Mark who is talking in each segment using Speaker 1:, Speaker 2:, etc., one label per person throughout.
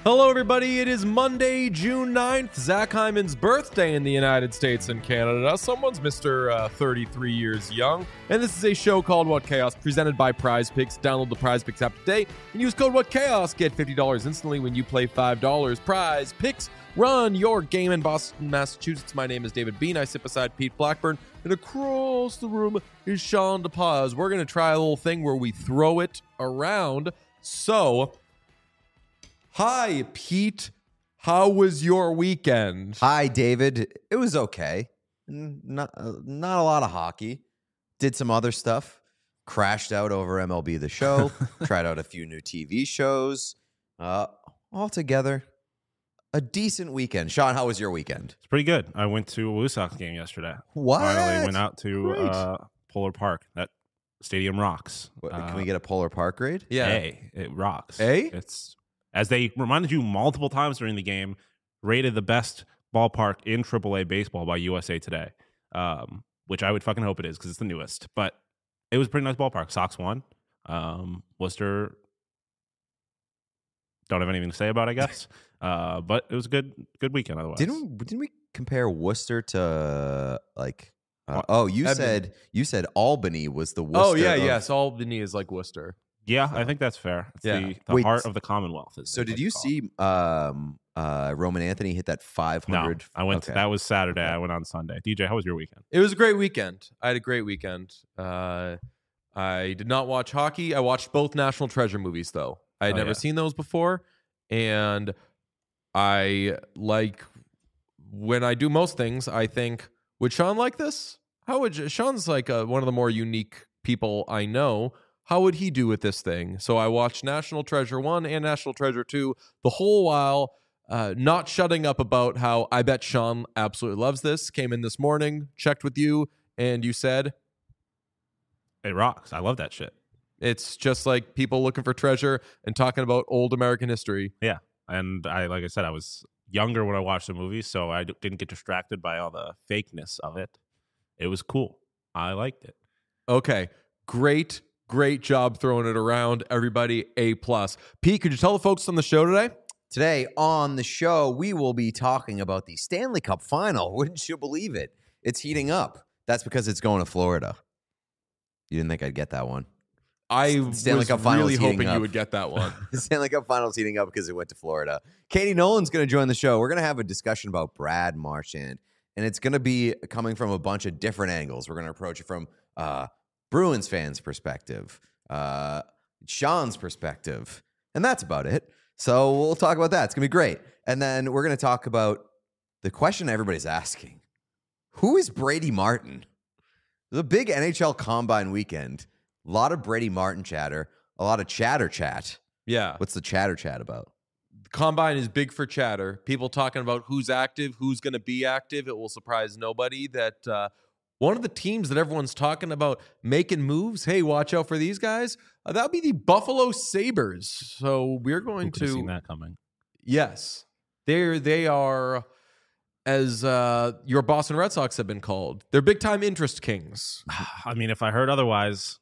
Speaker 1: Hello, everybody. It is Monday, June 9th, Zach Hyman's birthday in the United States and Canada. Someone's Mr. 33 years young. And this is a show called What Chaos, presented by Prize Picks. Download the Prize Picks app today and use code What Chaos. Get $50 instantly when you play $5. Prize Picks. Run your game in Boston, Massachusetts. My name is David Bean. I sit beside Pete Blackburn. And across the room is Sean DePaz. We're going to try a little thing where we throw it around. So... Hi, Pete. How was your weekend?
Speaker 2: Hi, David. It was okay. Not a lot of hockey. Did some other stuff. Crashed out over MLB The Show. Tried out a few new TV shows. Altogether, a decent weekend. Sean, how was your weekend?
Speaker 3: It's pretty good. I went to a Blue Sox game yesterday.
Speaker 2: What?
Speaker 3: Finally went out to Polar Park. That stadium rocks.
Speaker 2: Can we get a Polar Park grade?
Speaker 1: Yeah.
Speaker 3: It rocks.
Speaker 1: It's...
Speaker 3: As they reminded you multiple times during the game, rated the best ballpark in AAA baseball by USA Today, which I would fucking hope it is because it's the newest. But it was a pretty nice ballpark. Sox won. Worcester, don't have anything to say about, I guess. But it was a good weekend otherwise.
Speaker 2: Didn't we compare Worcester to like? You said Albany was the Worcester.
Speaker 1: Oh yeah, yes. Albany is like Worcester.
Speaker 3: Yeah, I think that's fair. It's the heart of the Commonwealth.
Speaker 2: So did you see Roman Anthony hit that 500?
Speaker 3: No, I went. That was Saturday. I went on Sunday. DJ, how was your weekend?
Speaker 1: It was a great weekend. I had a great weekend. I did not watch hockey. I watched both National Treasure movies, though. I had never seen those before. And I like, when I do most things, I think, would Sean like this? Sean's like one of the more unique people I know. How would he do with this thing? So I watched National Treasure 1 and National Treasure 2 the whole while, not shutting up about how I bet Sean absolutely loves this. Came in this morning, checked with you, and you said...
Speaker 3: It rocks. I love that shit.
Speaker 1: It's just like people looking for treasure and talking about old American history.
Speaker 3: Yeah. And like I said, I was younger when I watched the movie, so I didn't get distracted by all the fakeness of it. It was cool. I liked it.
Speaker 1: Okay. Great job throwing it around. Everybody, A+. Pete, could you tell the folks on the show today?
Speaker 2: Today on the show, we will be talking about the Stanley Cup Final. Wouldn't you believe it? It's heating up. That's because it's going to Florida. You didn't think I'd get that one?
Speaker 1: I was really hoping you would get that one.
Speaker 2: The Stanley Cup Finals heating up because it went to Florida. Katie Nolan's going to join the show. We're going to have a discussion about Brad Marchand, and it's going to be coming from a bunch of different angles. We're going to approach it from Bruins fans' perspective, Sean's perspective, and that's about it. So we'll talk about that. It's going to be great. And then we're going to talk about the question everybody's asking. Who is Brady Martin? It was a big NHL Combine weekend. A lot of Brady Martin chatter, a lot of chatter chat.
Speaker 1: Yeah.
Speaker 2: What's the chatter chat about?
Speaker 1: The Combine is big for chatter. People talking about who's active, who's going to be active. It will surprise nobody that one of the teams that everyone's talking about making moves, hey, watch out for these guys, that would be the Buffalo Sabres. So we're going
Speaker 3: Who could have seen that coming?
Speaker 1: Yes. They are, as your Boston Red Sox have been called, they're big-time interest kings.
Speaker 3: I mean, if I heard otherwise,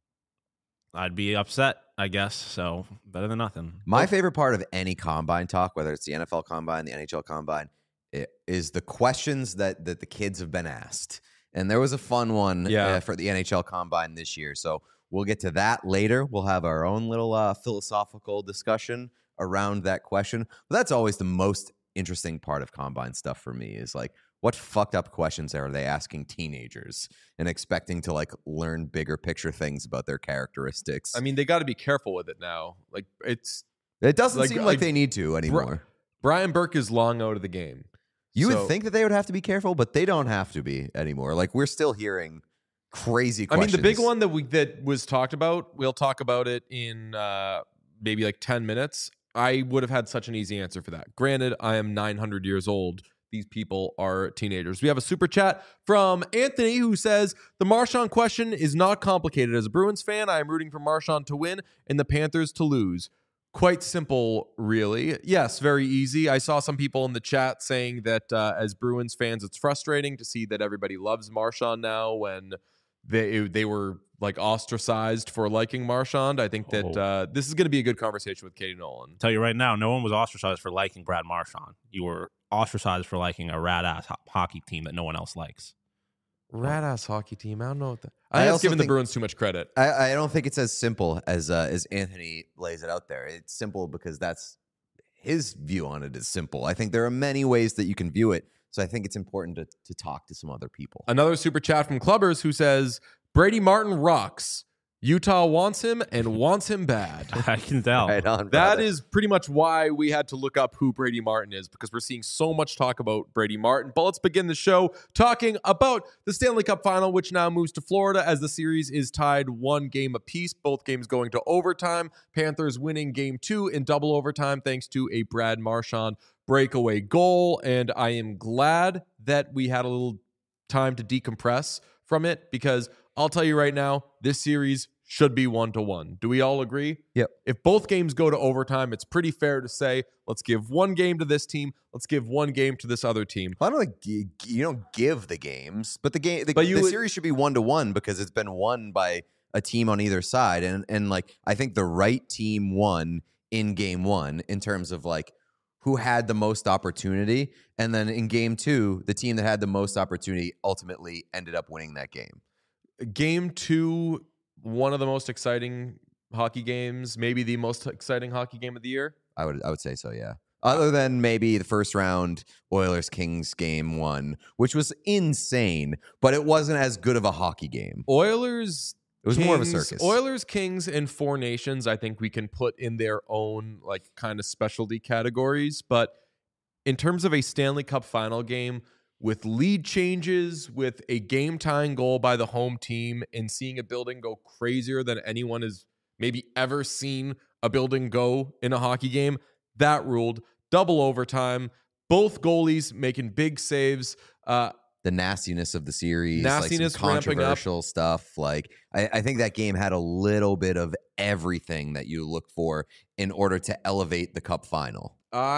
Speaker 3: I'd be upset, I guess. So better than nothing.
Speaker 2: My favorite part of any Combine talk, whether it's the NFL Combine, the NHL Combine, is the questions that the kids have been asked. And there was a fun one for the NHL Combine this year. So we'll get to that later. We'll have our own little philosophical discussion around that question. But that's always the most interesting part of Combine stuff for me is like, what fucked up questions are they asking teenagers and expecting to like learn bigger picture things about their characteristics?
Speaker 1: I mean, they got to be careful with it now. Like
Speaker 2: it doesn't seem like they need to anymore.
Speaker 1: Brian Burke is long out of the game.
Speaker 2: You would think that they would have to be careful, but they don't have to be anymore. Like we're still hearing crazy questions.
Speaker 1: I mean, the big one that was talked about, we'll talk about it in maybe like 10 minutes. I would have had such an easy answer for that. Granted, I am 900 years old. These people are teenagers. We have a super chat from Anthony who says, the Marchand question is not complicated. As a Bruins fan, I am rooting for Marchand to win and the Panthers to lose. Quite simple, really. Yes, very easy. I saw some people in the chat saying that as Bruins fans, it's frustrating to see that everybody loves Marchand now when they were like ostracized for liking Marchand. I think that this is going to be a good conversation with Katie Nolan.
Speaker 3: Tell you right now, no one was ostracized for liking Brad Marchand. You were ostracized for liking a rad-ass hockey team that no one else likes.
Speaker 1: Rad-ass hockey team. I don't know what I think it's giving the Bruins too much credit.
Speaker 2: I don't think it's as simple as Anthony lays it out there. It's simple because that's his view on it is simple. I think there are many ways that you can view it. So I think it's important to talk to some other people.
Speaker 1: Another super chat from Clubbers who says, Brady Martin rocks. Utah wants him and wants him bad.
Speaker 3: I can tell.
Speaker 2: Right on,
Speaker 1: that is pretty much why we had to look up who Brady Martin is, because we're seeing so much talk about Brady Martin. But let's begin the show talking about the Stanley Cup Final, which now moves to Florida as the series is tied 1 game apiece. Both games going to overtime. Panthers winning game 2 in double overtime thanks to a Brad Marchand breakaway goal. And I am glad that we had a little time to decompress from it, because I'll tell you right now, this series should be 1-1. Do we all agree?
Speaker 2: Yep.
Speaker 1: If both games go to overtime, it's pretty fair to say, let's give 1 game to this team, let's give 1 game to this other team.
Speaker 2: Well, I don't like you don't give the games, but the series should be 1-1 because it's been won by a team on either side, and like I think the right team won in game 1 in terms of like who had the most opportunity, and then in game 2, the team that had the most opportunity ultimately ended up winning that game.
Speaker 1: Game 2, one of the most exciting hockey games, maybe the most exciting hockey game of the year.
Speaker 2: I would say so, yeah. Other than maybe the first round Oilers-Kings game 1, which was insane, but it wasn't as good of a hockey game. It was more of a circus.
Speaker 1: Oilers, Kings, and Four Nations, I think we can put in their own like kind of specialty categories. But in terms of a Stanley Cup Final game, with lead changes, with a game-tying goal by the home team, and seeing a building go crazier than anyone has maybe ever seen a building go in a hockey game, that ruled. Double overtime, both goalies making big saves.
Speaker 2: The nastiness of the series,
Speaker 1: nastiness,
Speaker 2: like some controversial stuff. Like I think that game had a little bit of everything that you look for in order to elevate the Cup Final.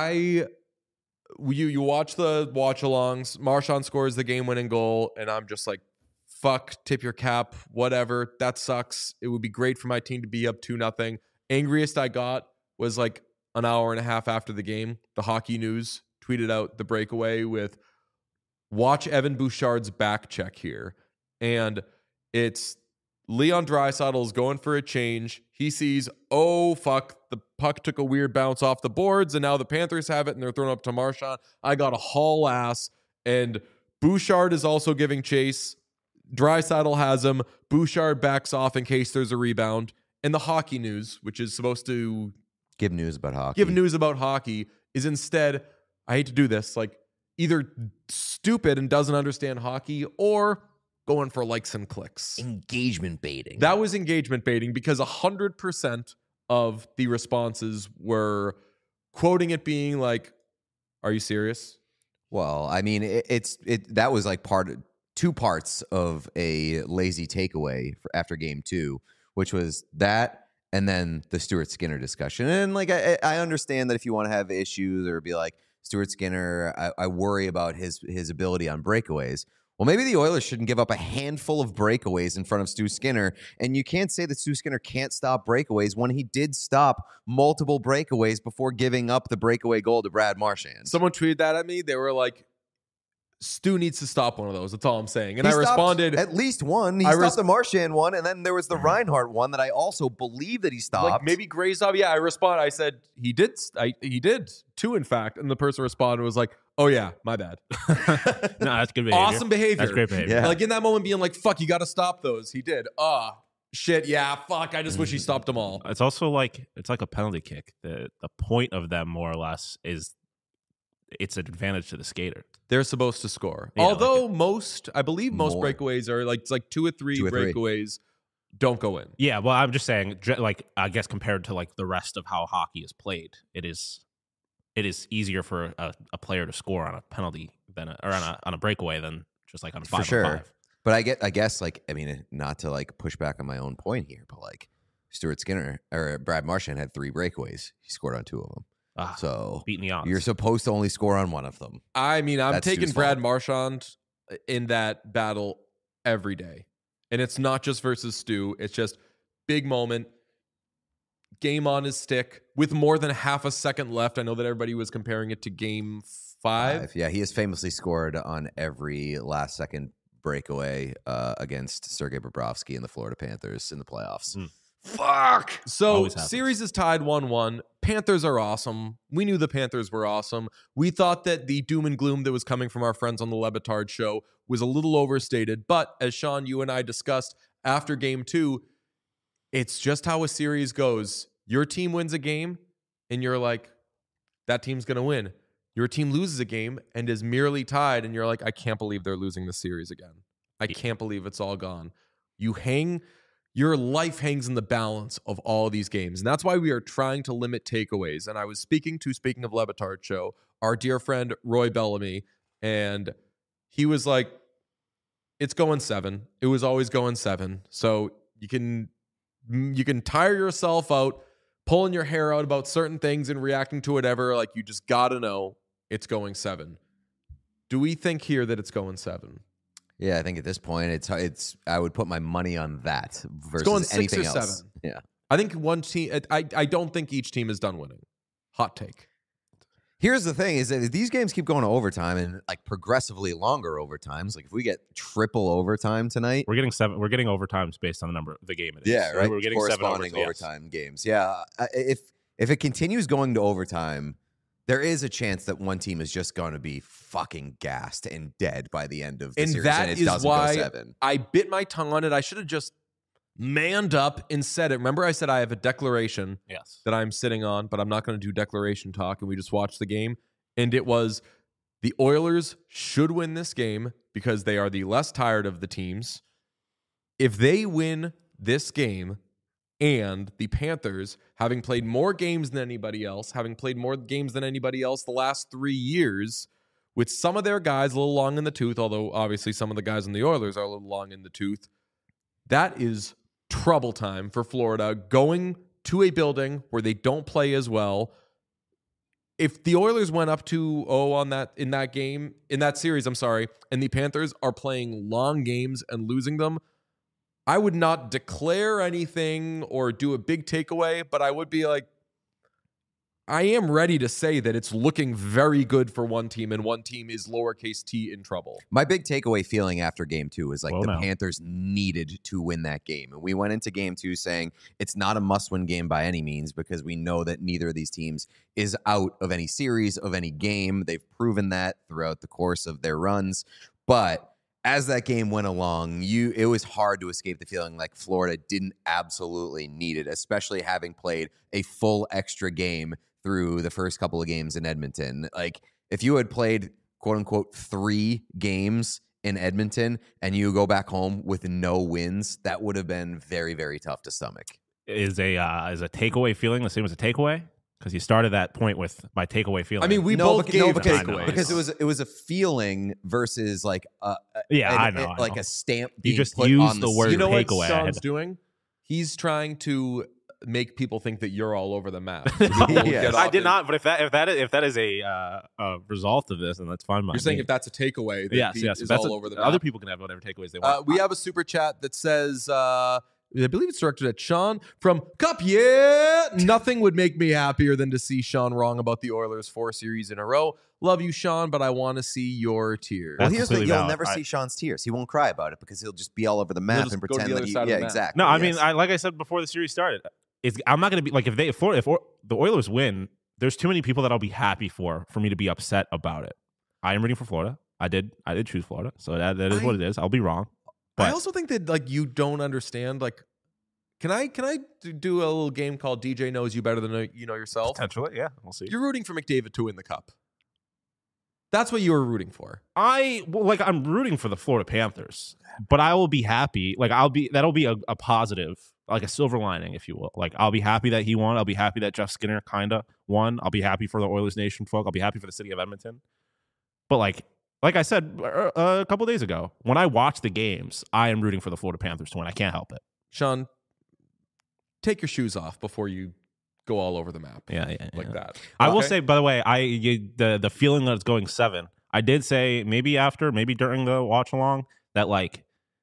Speaker 1: You watch the watch-alongs. Marchand scores the game-winning goal, and I'm just like, fuck, tip your cap, whatever. That sucks. It would be great for my team to be up 2-0. Angriest I got was like an hour and a half after the game. The Hockey News tweeted out the breakaway with, watch Evan Bouchard's back check here. And it's Leon Draisaitl's going for a change. He sees, oh, fuck, the puck took a weird bounce off the boards, and now the Panthers have it, and they're throwing up to Marchand. I got a haul ass, and Bouchard is also giving chase. Draisaitl has him. Bouchard backs off in case there's a rebound. And the Hockey News, which is supposed to
Speaker 2: give news about hockey,
Speaker 1: is instead, I hate to do this, like either stupid and doesn't understand hockey, or going for likes and clicks.
Speaker 2: Engagement baiting.
Speaker 1: That was engagement baiting, because 100% of the responses were quoting it being like, are you serious?
Speaker 2: Well, I mean, that was like two parts of a lazy takeaway after game 2, which was that and then the Stuart Skinner discussion. And like, I understand that if you want to have issues or be like, Stuart Skinner, I worry about his ability on breakaways. Well, maybe the Oilers shouldn't give up a handful of breakaways in front of Stu Skinner. And you can't say that Stu Skinner can't stop breakaways when he did stop multiple breakaways before giving up the breakaway goal to Brad Marchand.
Speaker 1: Someone tweeted that at me. They were like, Stu needs to stop one of those. That's all I'm saying. And I responded.
Speaker 2: At least one. He stopped the Marchand one, and then there was the Reinhart one that I also believe that he stopped.
Speaker 1: Like maybe Grazov. Yeah, I responded. I said, he did. He did, 2, in fact. And the person responded was like, oh, yeah, my bad.
Speaker 3: No, that's good behavior.
Speaker 1: Awesome behavior.
Speaker 3: That's great behavior.
Speaker 2: Yeah.
Speaker 1: Like in that moment being like, fuck, you got to stop those. He did. Shit, yeah, fuck. I just wish he stopped them all.
Speaker 3: It's also like, it's like a penalty kick. The point of them, more or less, is it's an advantage to the skater.
Speaker 1: They're supposed to score.
Speaker 3: Yeah,
Speaker 1: although
Speaker 3: like
Speaker 1: I believe most
Speaker 2: more.
Speaker 1: breakaways are like, it's like 2 or 3 breakaways don't go in.
Speaker 3: Yeah, well, I'm just saying, like, I guess compared to like the rest of how hockey is played, it is easier for a player to score on a penalty on a breakaway than just like on a 5-on-5.
Speaker 2: For sure. But I guess like, I mean, not to like push back on my own point here, but like Stuart Skinner or Brad Marchand had 3 breakaways. He scored on 2 of them. So
Speaker 3: beating the odds.
Speaker 2: You're supposed to only score on one of them.
Speaker 1: I mean, I'm
Speaker 2: That's
Speaker 1: taking
Speaker 2: Stu's
Speaker 1: Brad
Speaker 2: fault.
Speaker 1: Marchand in that battle every day. And it's not just versus Stu. It's just big moment. Game on his stick with more than half a second left. I know that everybody was comparing it to game 5.
Speaker 2: Yeah, he has famously scored on every last second breakaway against Sergei Bobrovsky and the Florida Panthers in the playoffs. Fuck.
Speaker 1: So series is tied 1-1. Panthers are awesome. We knew the Panthers were awesome. We thought that the doom and gloom that was coming from our friends on the Le Batard show was a little overstated. But as Sean, you and I discussed after game 2, it's just how a series goes. Your team wins a game, and you're like, that team's going to win. Your team loses a game and is merely tied, and you're like, I can't believe they're losing the series again. I can't believe it's all gone. Your life hangs in the balance of all these games. And that's why we are trying to limit takeaways. And I was speaking of Le Batard show, our dear friend Roy Bellamy, and he was like, it's going 7. It was always going 7. So you can tire yourself out pulling your hair out about certain things and reacting to whatever. Like, you just got to know it's going 7. Do we think here that it's going 7?
Speaker 2: Yeah, I think at this point, it's. I would put my money on that versus
Speaker 1: going 6
Speaker 2: anything
Speaker 1: or
Speaker 2: else.
Speaker 1: 7.
Speaker 2: Yeah,
Speaker 1: I think one team. I don't think each team is done winning. Hot take.
Speaker 2: Here's the thing: is that if these games keep going to overtime and like progressively longer overtimes, like if we get triple overtime tonight,
Speaker 3: we're getting 7. We're getting overtimes based on the number of the game. It is.
Speaker 2: Yeah, right.
Speaker 3: We're getting
Speaker 2: corresponding
Speaker 3: 7
Speaker 2: overtime games. Yeah, if it continues going to overtime, there is a chance that one team is just going to be fucking gassed and dead by the end of the series.
Speaker 1: That
Speaker 2: and it
Speaker 1: is
Speaker 2: doesn't
Speaker 1: why
Speaker 2: go 7.
Speaker 1: I bit my tongue on it. I should have just manned up and said it. Remember, I said I have a declaration that I'm sitting on, but I'm not going to do declaration talk, and we just watched the game. And it was the Oilers should win this game because they are the less tired of the teams. If they win this game, and the Panthers, having played more games than anybody else, the last 3 years, with some of their guys a little long in the tooth, although obviously some of the guys in the Oilers are a little long in the tooth, that is trouble time for Florida, going to a building where they don't play as well. If the Oilers went up 2-0 in that series, and the Panthers are playing long games and losing them, I would not declare anything or do a big takeaway, but I would be like, I am ready to say that it's looking very good for one team, and one team is lowercase t in trouble.
Speaker 2: My big takeaway feeling after game 2 was Panthers needed to win that game. And we went into game 2 saying it's not a must-win game by any means because we know that neither of these teams is out of any series, of any game. They've proven that throughout the course of their runs. But as that game went along, it was hard to escape the feeling like Florida didn't absolutely need it, especially having played a full extra game through the first couple of games in Edmonton. Like, if you had played, quote-unquote, 3 games in Edmonton and you go back home with no wins, that would have been very, very tough to stomach.
Speaker 3: Is a takeaway feeling the same as a takeaway? Because you started that point with my takeaway feeling.
Speaker 1: I mean, we both gave takeaways.
Speaker 2: Because it was a feeling versus like
Speaker 3: I know.
Speaker 2: Like a stamp.
Speaker 3: You just
Speaker 2: put
Speaker 3: use
Speaker 2: on
Speaker 3: the word
Speaker 1: You know
Speaker 3: takeaway.
Speaker 1: what Sean's doing? He's trying to make people think that you're all over the map.
Speaker 2: Yes.
Speaker 3: I did not. But if that is a result of this, then that's fine.
Speaker 1: You're saying if that's a takeaway, that
Speaker 3: yes,
Speaker 1: is all over the map.
Speaker 3: Other people can have whatever takeaways they want.
Speaker 1: We have a super chat that says, I believe it's directed at Sean from Cup. Yeah, nothing would make me happier than to see Sean wrong about the Oilers 4 series in a row. Love you, Sean, but I want to see your tears.
Speaker 2: Well, here's the thing: you'll never see Sean's tears. He won't cry about it because he'll just be all over the map and pretend that exactly.
Speaker 3: No, I mean, like I said before the series started, I'm not going to be like if the Oilers win, there's too many people that I'll be happy for me to be upset about it. I am rooting for Florida. I did choose Florida, so that is what it is. I'll be wrong. But
Speaker 1: I also think that you don't understand. Can I do a little game called DJ Knows You Better Than You Know Yourself?
Speaker 3: Potentially, yeah. We'll see.
Speaker 1: You're rooting for McDavid to win the Cup. That's what you were rooting for.
Speaker 3: I'm rooting for the Florida Panthers, but I will be happy. That'll be a positive, like a silver lining, if you will. Like, I'll be happy that he won. I'll be happy that Jeff Skinner kinda won. I'll be happy for the Oilers Nation folk. I'll be happy for the city of Edmonton. But like I said a couple days ago, when I watch the games, I am rooting for the Florida Panthers to win. I can't help it.
Speaker 1: Sean, take your shoes off before you go all over the map.
Speaker 3: Yeah.
Speaker 1: That.
Speaker 3: I will say, by the way, the feeling that it's going 7, I did say maybe during the watch along that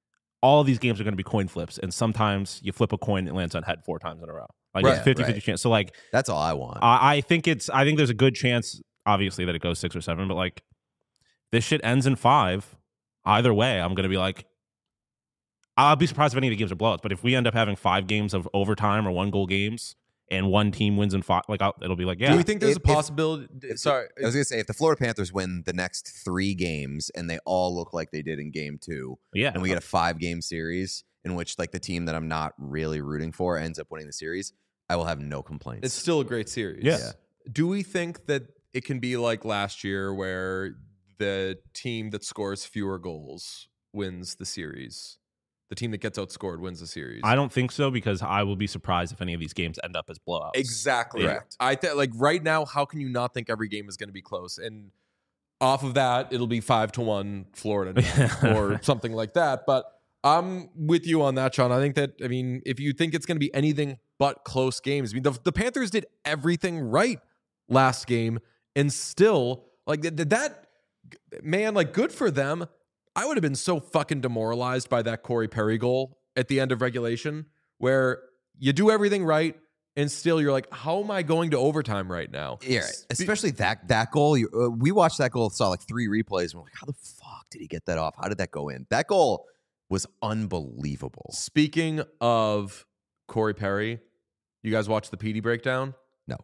Speaker 3: all of these games are going to be coin flips, and sometimes you flip a coin, it lands on head 4 times in a row. Like
Speaker 2: Right,
Speaker 3: it's 50-50
Speaker 2: right.
Speaker 3: chance. So like
Speaker 2: That's all I want.
Speaker 3: I think there's a good chance, obviously, that it goes 6 or 7, but like this shit ends in 5. Either way, I'm going to be like, I'll be surprised if any of the games are blowouts. But if we end up having 5 games of overtime or 1-goal games, and one team wins in 5, like it'll be like, yeah.
Speaker 1: Do you think there's a possibility? Sorry,
Speaker 2: I was going to say, if the Florida Panthers win the next 3 games and they all look like they did in game 2,
Speaker 3: Yeah.
Speaker 2: and we get a 5-game series in which like the team that I'm not really rooting for ends up winning the series, I will have no complaints.
Speaker 1: it's still a great series.
Speaker 3: Yeah.
Speaker 1: Do we think that it can be like last year where the team that scores fewer goals wins the series? The team that gets outscored wins the series.
Speaker 3: I don't think so, because I will be surprised if any of these games end up as blowouts.
Speaker 1: Exactly.
Speaker 3: Yeah.
Speaker 2: Correct.
Speaker 1: I think like right now, how can you not think every game is going to be close? And off of that, it'll be 5-1 Florida now, or something like that. But I'm with you on that, Sean. I think that, I mean, if you think it's going to be anything but close games, I mean, the Panthers did everything right last game, and still, like that, man, like good for them. I would have been so fucking demoralized by that Corey Perry goal at the end of regulation, where you do everything right, and still you're like, how am I going to overtime right now?
Speaker 2: Yeah, especially that goal. We watched that goal, saw like 3 replays, and we're like, how the fuck did he get that off? How did that go in? That goal was unbelievable.
Speaker 1: Speaking of Corey Perry, you guys watch the PD breakdown?
Speaker 2: No.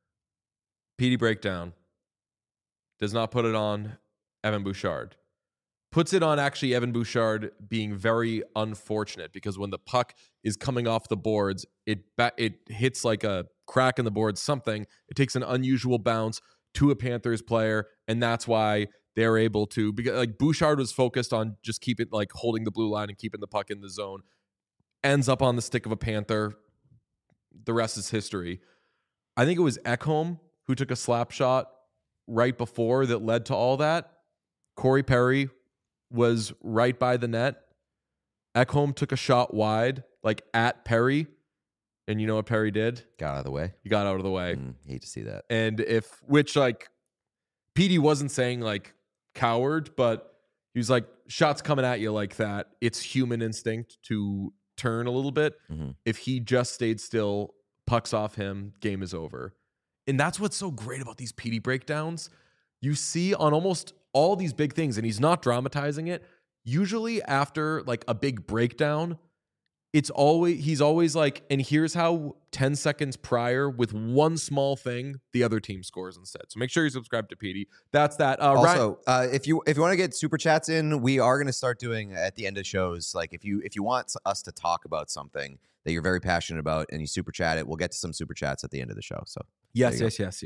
Speaker 1: PD breakdown does not put it on Evan Bouchard. Puts it on actually Evan Bouchard being very unfortunate, because when the puck is coming off the boards, it hits like a crack in the boards, something. It takes an unusual bounce to a Panthers player, and that's why they're able to, because like Bouchard was focused on just holding the blue line and keeping the puck in the zone. Ends up on the stick of a Panther. The rest is history. I think it was Ekholm who took a slap shot right before that led to all that. Corey Perry was right by the net. Ekholm took a shot wide, like at Perry. And you know what Perry did?
Speaker 2: Got out of the way.
Speaker 1: He got out of the way.
Speaker 2: Hate to see that.
Speaker 1: And like, PD wasn't saying like coward, but he was like, shots coming at you like that, it's human instinct to turn a little bit.
Speaker 2: Mm-hmm.
Speaker 1: If he just stayed still, pucks off him, game is over. And that's what's so great about these PD breakdowns. You see on almost all these big things, and he's not dramatizing it. Usually after like a big breakdown, he's always like, and here's how 10 seconds prior with one small thing, the other team scores instead. So make sure you subscribe to PD. That's that.
Speaker 2: Also, if you want to get super chats in, we are going to start doing at the end of shows. Like if you want us to talk about something that you're very passionate about and you super chat it, we'll get to some super chats at the end of the show. So
Speaker 1: yes.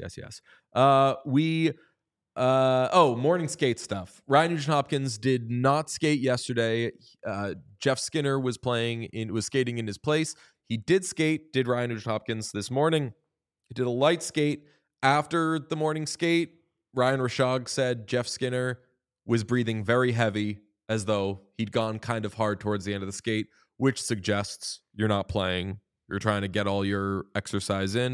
Speaker 1: Morning skate stuff. Ryan Nugent-Hopkins did not skate yesterday. Jeff Skinner was skating in his place. He did skate, did Ryan Nugent-Hopkins this morning. He did a light skate. After the morning skate, Ryan Rashog said Jeff Skinner was breathing very heavy, as though he'd gone kind of hard towards the end of the skate, which suggests you're not playing. You're trying to get all your exercise in.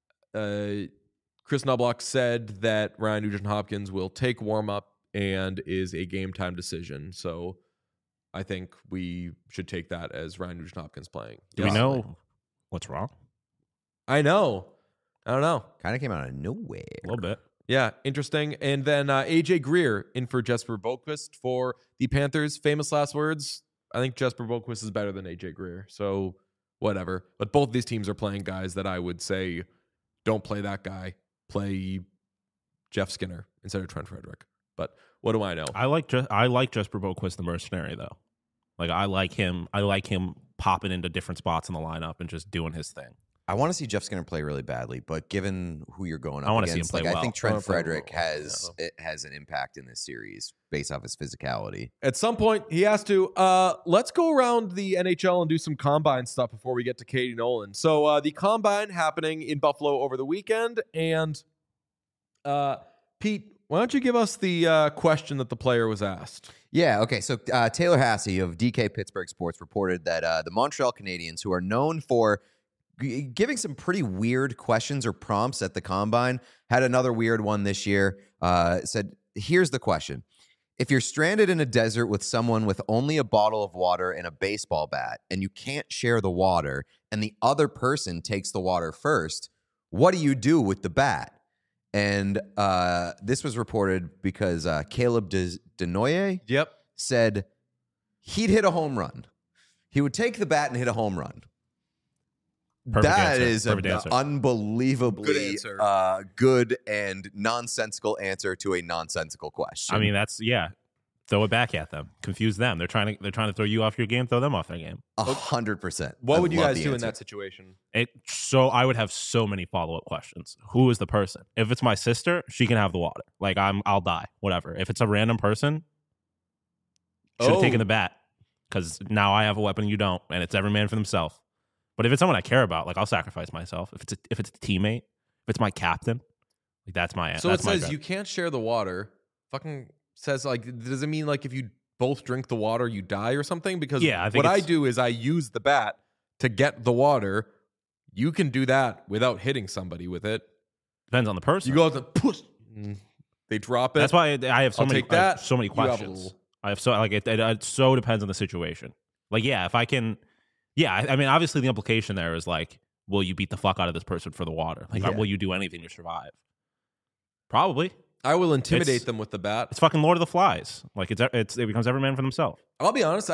Speaker 1: Chris Knobloch said that Ryan Nugent-Hopkins will take warm-up and is a game-time decision. So I think we should take that as Ryan Nugent-Hopkins playing.
Speaker 3: Do we know what's wrong?
Speaker 1: I know. I don't know.
Speaker 2: kind of came out of nowhere.
Speaker 3: A little bit.
Speaker 1: Yeah, interesting. And then AJ Greer in for Jesper Boqvist for the Panthers. Famous last words. I think Jesper Boqvist is better than AJ Greer. So whatever. But both these teams are playing guys that I would say don't play that guy. Play Jeff Skinner instead of Trent Frederick. But what do I know?
Speaker 3: I like Jesper Boqvist, the mercenary, though. Like I like him popping into different spots in the lineup and just doing his thing.
Speaker 2: I want to see Jeff Skinner play really badly, but given who you're going up
Speaker 3: I want to see him
Speaker 2: against,
Speaker 3: play
Speaker 2: like
Speaker 3: well.
Speaker 2: I think Trent Frederick
Speaker 1: well.
Speaker 2: has an impact in this series based off his physicality.
Speaker 1: At some point, he has to. Let's go around the NHL and do some combine stuff before we get to Katie Nolan. So the combine happening in Buffalo over the weekend. And Pete, why don't you give us the question that the player was asked?
Speaker 2: Yeah, okay. So Taylor Hassey of DK Pittsburgh Sports reported that the Montreal Canadiens, who are known for giving some pretty weird questions or prompts at the combine, had another weird one this year. Said, here's the question. If you're stranded in a desert with someone with only a bottle of water and a baseball bat, and you can't share the water, and the other person takes the water first, what do you do with the bat? And this was reported because Caleb Denoye
Speaker 1: Yep.
Speaker 2: said he'd hit a home run. He would take the bat and hit a home run.
Speaker 3: Perfect
Speaker 2: That
Speaker 3: answer.
Speaker 2: is
Speaker 3: Perfect
Speaker 2: an
Speaker 3: answer.
Speaker 2: unbelievably
Speaker 1: Good answer.
Speaker 2: good and nonsensical answer to a nonsensical question.
Speaker 3: I mean, that's throw it back at them, confuse them. They're trying to throw you off your game, throw them off their game.
Speaker 2: 100%.
Speaker 1: What would you guys do in that situation?
Speaker 3: So I would have so many follow-up questions. Who is the person? If it's my sister, she can have the water. Like I'll die, whatever. If it's a random person, should have taken the bat, because now I have a weapon, you don't, and it's every man for themselves. But if it's someone I care about, like I'll sacrifice myself. If it's a teammate, if it's my captain, like that's my.
Speaker 1: So
Speaker 3: that's
Speaker 1: it says you can't share the water. Fucking says like, does it mean like if you both drink the water you die or something? Because
Speaker 3: I think
Speaker 1: what I do is I use the bat to get the water. You can do that without hitting somebody with it.
Speaker 3: Depends on the person.
Speaker 1: You go out the push. They drop it.
Speaker 3: That's why I have so
Speaker 1: I'll
Speaker 3: many.
Speaker 1: take that.
Speaker 3: I have so many
Speaker 1: You have a
Speaker 3: questions.
Speaker 1: little-
Speaker 3: I have so like it so depends on the situation. Like if I can, I mean obviously the implication there is like, will you beat the fuck out of this person for the water? Like will you do anything to survive? Probably.
Speaker 1: I will intimidate them with the bat.
Speaker 3: It's fucking Lord of the Flies. Like it becomes every man for themselves.
Speaker 1: I'll be honest.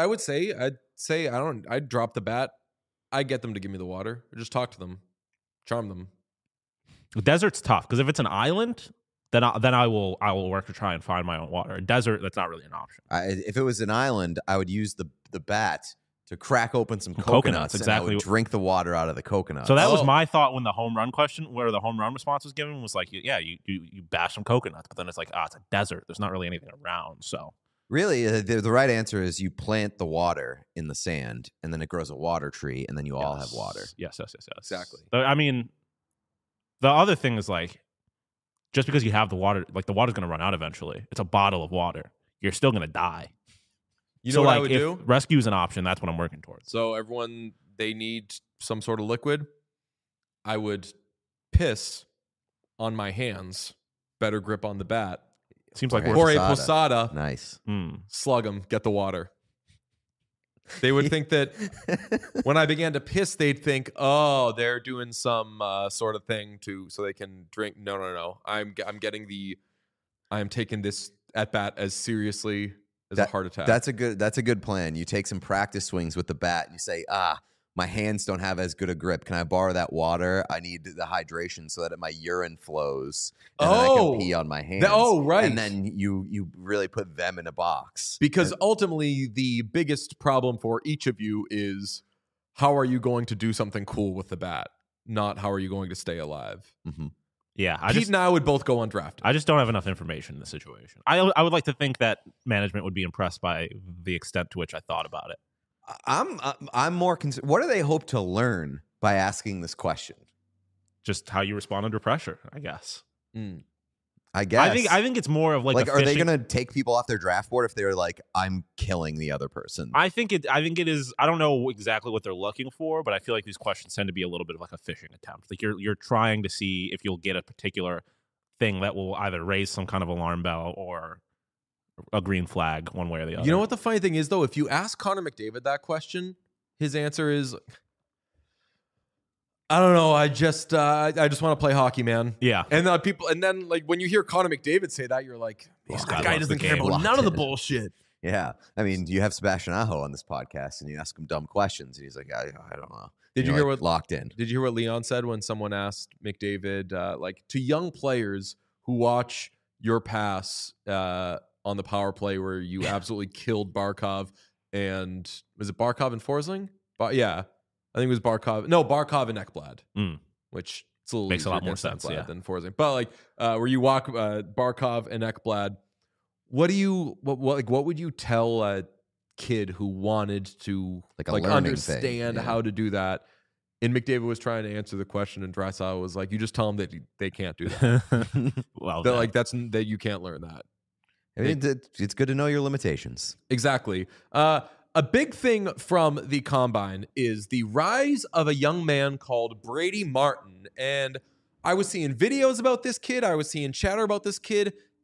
Speaker 1: I'd drop the bat. I get them to give me the water. Or just talk to them, charm them.
Speaker 3: The desert's tough because if it's an island, then I will work to try and find my own water. A desert, that's not really an option.
Speaker 2: If it was an island, I would use the bat to crack open some coconuts,
Speaker 3: exactly.
Speaker 2: And I would drink the water out of the coconuts.
Speaker 3: So that was my thought when the home run question, where the home run response was given, was like, you bash some coconuts, but then it's like, it's a desert. There's not really anything around. So
Speaker 2: really, the right answer is you plant the water in the sand, and then it grows a water tree, and then you all have water.
Speaker 3: Yes.
Speaker 1: Exactly.
Speaker 3: But, I mean, the other thing is like, just because you have the water, like the water's going to run out eventually. It's a bottle of water. You're still going to die.
Speaker 1: You know what I would
Speaker 3: if
Speaker 1: do?
Speaker 3: Rescue is an option. That's what I'm working towards.
Speaker 1: So everyone, they need some sort of liquid. I would piss on my hands. Better grip on the bat.
Speaker 3: Seems like
Speaker 2: Jorge
Speaker 3: we're
Speaker 1: Jorge Posada.
Speaker 2: Nice.
Speaker 1: Slug him. Get the water. They would think that when I began to piss, they'd think, oh, they're doing some sort of thing so they can drink. No. I'm taking this at bat as seriously as a heart attack.
Speaker 2: That's a good plan. You take some practice swings with the bat and you say, my hands don't have as good a grip. Can I borrow that water? I need the hydration so that my urine flows and then I can pee on my hands.
Speaker 1: Right.
Speaker 2: And then you really put them in a box.
Speaker 1: Because ultimately the biggest problem for each of you is how are you going to do something cool with the bat, not how are you going to stay alive.
Speaker 2: Mm-hmm.
Speaker 3: Yeah,
Speaker 1: Pete and I would both go undrafted.
Speaker 3: I just don't have enough information in the situation. I would like to think that management would be impressed by the extent to which I thought about it.
Speaker 2: I'm more concerned. What do they hope to learn by asking this question?
Speaker 3: Just how you respond under pressure, I guess.
Speaker 2: I guess.
Speaker 3: I think it's more of like
Speaker 2: are they going to take people off their draft board if they're like, I'm killing the other person?
Speaker 3: I think it is. I don't know exactly what they're looking for, but I feel like these questions tend to be a little bit of like a fishing attempt. Like you're trying to see if you'll get a particular thing that will either raise some kind of alarm bell or a green flag one way or the other.
Speaker 1: You know what the funny thing is, though? If you ask Connor McDavid that question, his answer is, I don't know. I just want to play hockey, man.
Speaker 3: Yeah.
Speaker 1: And then like when you hear Connor McDavid say that, you're like,
Speaker 3: This
Speaker 1: that
Speaker 3: guy
Speaker 1: guy
Speaker 3: loves
Speaker 1: doesn't
Speaker 3: the
Speaker 1: care
Speaker 3: game.
Speaker 1: about
Speaker 2: Locked
Speaker 1: none of the
Speaker 2: in.
Speaker 1: bullshit.
Speaker 2: Yeah. I mean, you have Sebastian Aho on this podcast and you ask him dumb questions and he's like, I don't know.
Speaker 1: Did you hear what
Speaker 2: locked in?
Speaker 1: Did you hear what Leon said when someone asked McDavid, like to young players who watch your pass on the power play where you absolutely killed Barkov and was it Barkov and Forsling? Yeah, I think it was Barkov. No, Barkov and Ekblad, which it's a little
Speaker 3: makes a lot
Speaker 1: easier
Speaker 3: more
Speaker 1: against
Speaker 3: sense.
Speaker 1: Ekblad
Speaker 3: Yeah,
Speaker 1: than Forsling. But like where you walk Barkov and Ekblad, what would you tell a kid who wanted to
Speaker 2: Like a learning
Speaker 1: understand
Speaker 2: thing, yeah.
Speaker 1: how to do that? And McDavid was trying to answer the question, and Draisaitl was like, "You just tell them that they can't do that.
Speaker 3: well,
Speaker 1: that you can't learn that."
Speaker 2: I mean, it's good to know your limitations.
Speaker 1: Exactly. A big thing from the Combine is the rise of a young man called Brady Martin, and I was seeing videos about this kid. I was seeing chatter about this kid,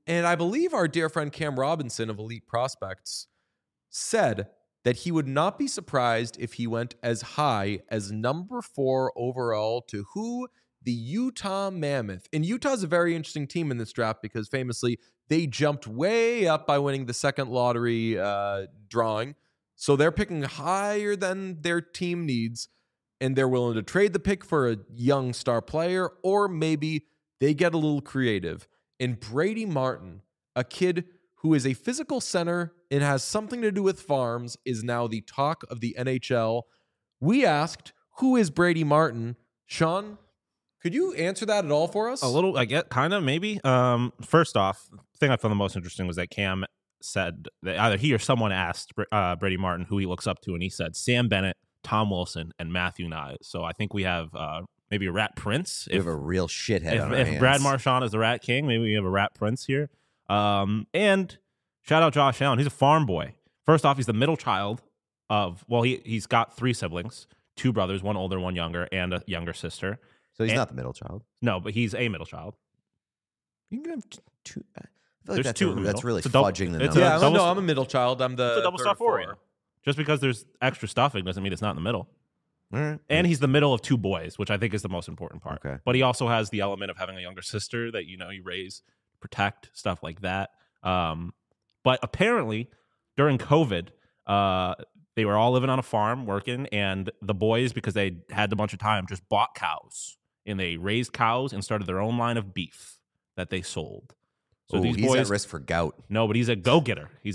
Speaker 1: And I believe our dear friend Cam Robinson of Elite Prospects said that he would not be surprised if he went as high as number 4 overall to who? The Utah Mammoth. And Utah's a very interesting team in this draft because famously they jumped way up by winning the second lottery drawing. So they're picking higher than their team needs, and they're willing to trade the pick for a young star player, or maybe they get a little creative. And Brady Martin, a kid who is a physical center and has something to do with farms, is now the talk of the NHL. We asked, who is Brady Martin? Sean, could you answer that at all for us?
Speaker 3: A little, I get, kind of, maybe. First off, the thing I found the most interesting was that Cam said that either he or someone asked Brady Martin who he looks up to, and he said Sam Bennett, Tom Wilson, and Matthew Knies. So I think we have maybe a Rat Prince.
Speaker 2: We have a real shithead on our hands.
Speaker 3: If Brad Marchand is the Rat King, maybe we have a Rat Prince here. And shout out Josh Allen. He's a farm boy. First off, he's the middle child of, well, he's got 3 siblings, 2 brothers, 1 older, 1 younger, and a younger sister.
Speaker 2: So he's not the middle child.
Speaker 3: No, but he's a middle child.
Speaker 2: You can have 2. I feel
Speaker 3: There's
Speaker 2: like
Speaker 3: 2 in the
Speaker 2: that's
Speaker 3: middle.
Speaker 2: really
Speaker 3: It's a double-
Speaker 2: fudging the
Speaker 3: it's
Speaker 2: numbers.
Speaker 3: a double-
Speaker 1: I'm a middle child. I'm the
Speaker 3: It's a double
Speaker 1: third
Speaker 3: star
Speaker 1: of 4.
Speaker 3: for you. Just because there's extra stuffing doesn't mean it's not in the middle.
Speaker 2: All right.
Speaker 3: And he's the middle of 2 boys, which I think is the most important part.
Speaker 2: Okay.
Speaker 3: But he also has the element of having a younger sister that, you raise, protect, stuff like that. But apparently, during COVID, they were all living on a farm working, and the boys, because they had a bunch of time, just bought cows. And they raised cows and started their own line of beef that they sold. So these
Speaker 2: he's
Speaker 3: boys,
Speaker 2: at risk for gout.
Speaker 3: no, but he's a go-getter. He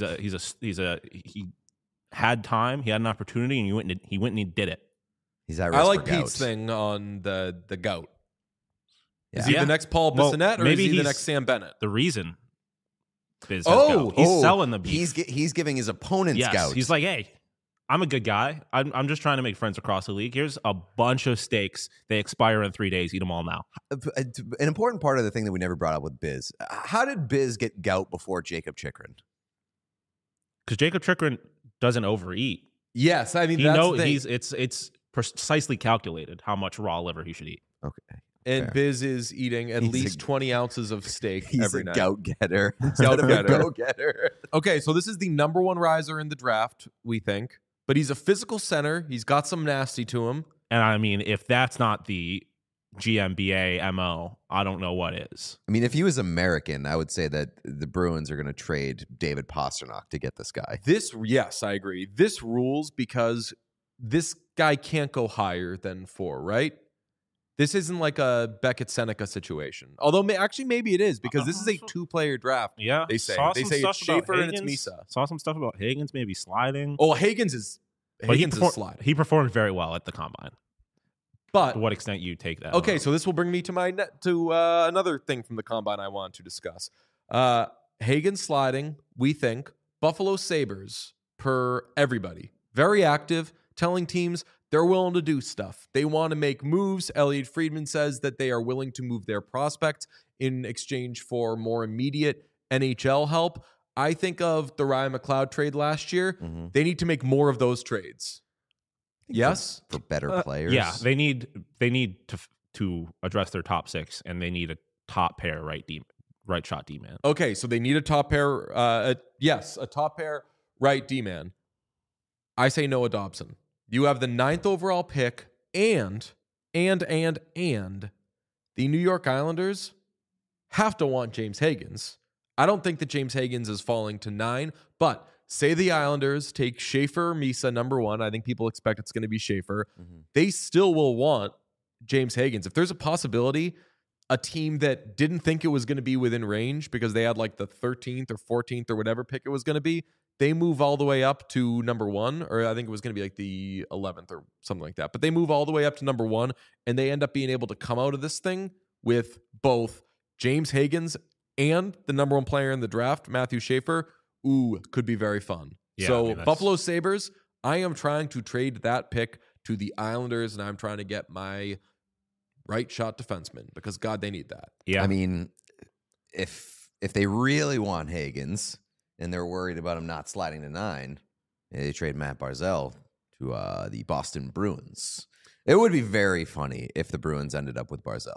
Speaker 3: had time, he had an opportunity, and he went and he did it.
Speaker 2: He's at risk
Speaker 1: I like
Speaker 2: for gout.
Speaker 1: Pete's thing on the gout.
Speaker 2: Yeah.
Speaker 1: Is he
Speaker 3: Yeah.
Speaker 1: the next Paul
Speaker 3: Well,
Speaker 1: Bissonnette, or is
Speaker 3: maybe
Speaker 1: he the
Speaker 3: he's-
Speaker 1: next Sam Bennett?
Speaker 3: The reason Biz has
Speaker 1: Oh,
Speaker 3: gout. He's selling the beef.
Speaker 2: He's giving his opponents
Speaker 3: Yes,
Speaker 2: gout.
Speaker 3: he's like, hey, I'm a good guy. I'm just trying to make friends across the league. Here's a bunch of steaks. They expire in 3 days. Eat them all now.
Speaker 2: An important part of the thing that we never brought up with Biz. How did Biz get gout before Jacob Chikrin?
Speaker 3: Because Jacob Chikrin doesn't overeat.
Speaker 1: Yes, I mean
Speaker 3: He
Speaker 1: that's
Speaker 3: know
Speaker 1: the thing.
Speaker 3: it's precisely calculated how much raw liver he should eat.
Speaker 2: Okay.
Speaker 1: And
Speaker 2: fair.
Speaker 1: Biz is eating at
Speaker 2: He's
Speaker 1: least 20 ounces of steak
Speaker 2: He's
Speaker 1: every
Speaker 2: a
Speaker 1: night.
Speaker 2: gout getter.
Speaker 1: Gout getter.
Speaker 2: Go getter.
Speaker 1: Okay, so this is the number 1 riser in the draft, we think. But he's a physical center. He's got some nasty to him.
Speaker 3: And I mean, if that's not the GMBA MO, I don't know what is.
Speaker 2: I mean, if he was American, I would say that the Bruins are going to trade David Pastrnak to get this guy.
Speaker 1: Yes, I agree. This rules because this guy can't go higher than 4, right? This isn't like a Beckett Seneca situation. Although maybe it is because this is a 2-player draft.
Speaker 3: Yeah,
Speaker 1: They say
Speaker 3: saw
Speaker 1: they
Speaker 3: some
Speaker 1: say it's
Speaker 3: stuff about
Speaker 1: Schaefer and it's
Speaker 3: Higgins.
Speaker 1: Misa.
Speaker 3: Saw some stuff about Higgins maybe sliding.
Speaker 1: Oh, Higgins is sliding.
Speaker 3: He performed very well at the combine.
Speaker 1: But
Speaker 3: To what extent you take that?
Speaker 1: okay, so this will bring me to another thing from the combine I want to discuss. Hagen sliding, we think. Buffalo Sabres, per everybody. Very active, telling teams they're willing to do stuff. They want to make moves. Elliot Friedman says that they are willing to move their prospects in exchange for more immediate NHL help. I think of the Ryan McLeod trade last year.
Speaker 2: Mm-hmm.
Speaker 1: They need to make more of those trades. Yes?
Speaker 2: For better players.
Speaker 3: Yeah, they need to address their top 6, and they need a top pair right shot D man.
Speaker 1: Okay, so they need a top pair. A top pair right D man. I say Noah Dobson. You have the 9th overall pick, and the New York Islanders have to want James Higgins. I don't think that James Higgins is falling to 9, but say the Islanders take Schaefer or Misa number 1. I think people expect it's going to be Schaefer.
Speaker 2: Mm-hmm.
Speaker 1: They still will want James Higgins. If there's a possibility, a team that didn't think it was going to be within range because they had like the 13th or 14th or whatever pick it was going to be, they move all the way up to number 1, or I think it was going to be like the 11th or something like that. But they move all the way up to number 1, and they end up being able to come out of this thing with both James Higgins and the number 1 player in the draft, Matthew Schaefer. Ooh, could be very fun.
Speaker 3: Yeah,
Speaker 1: So
Speaker 3: I mean,
Speaker 1: Buffalo Sabres, I am trying to trade that pick to the Islanders, and I'm trying to get my right shot defenseman because, God, they need that.
Speaker 3: Yeah,
Speaker 2: I mean, if they really want Higgins and they're worried about him not sliding to 9, they trade Matt Barzal to the Boston Bruins. It would be very funny if the Bruins ended up with Barzal.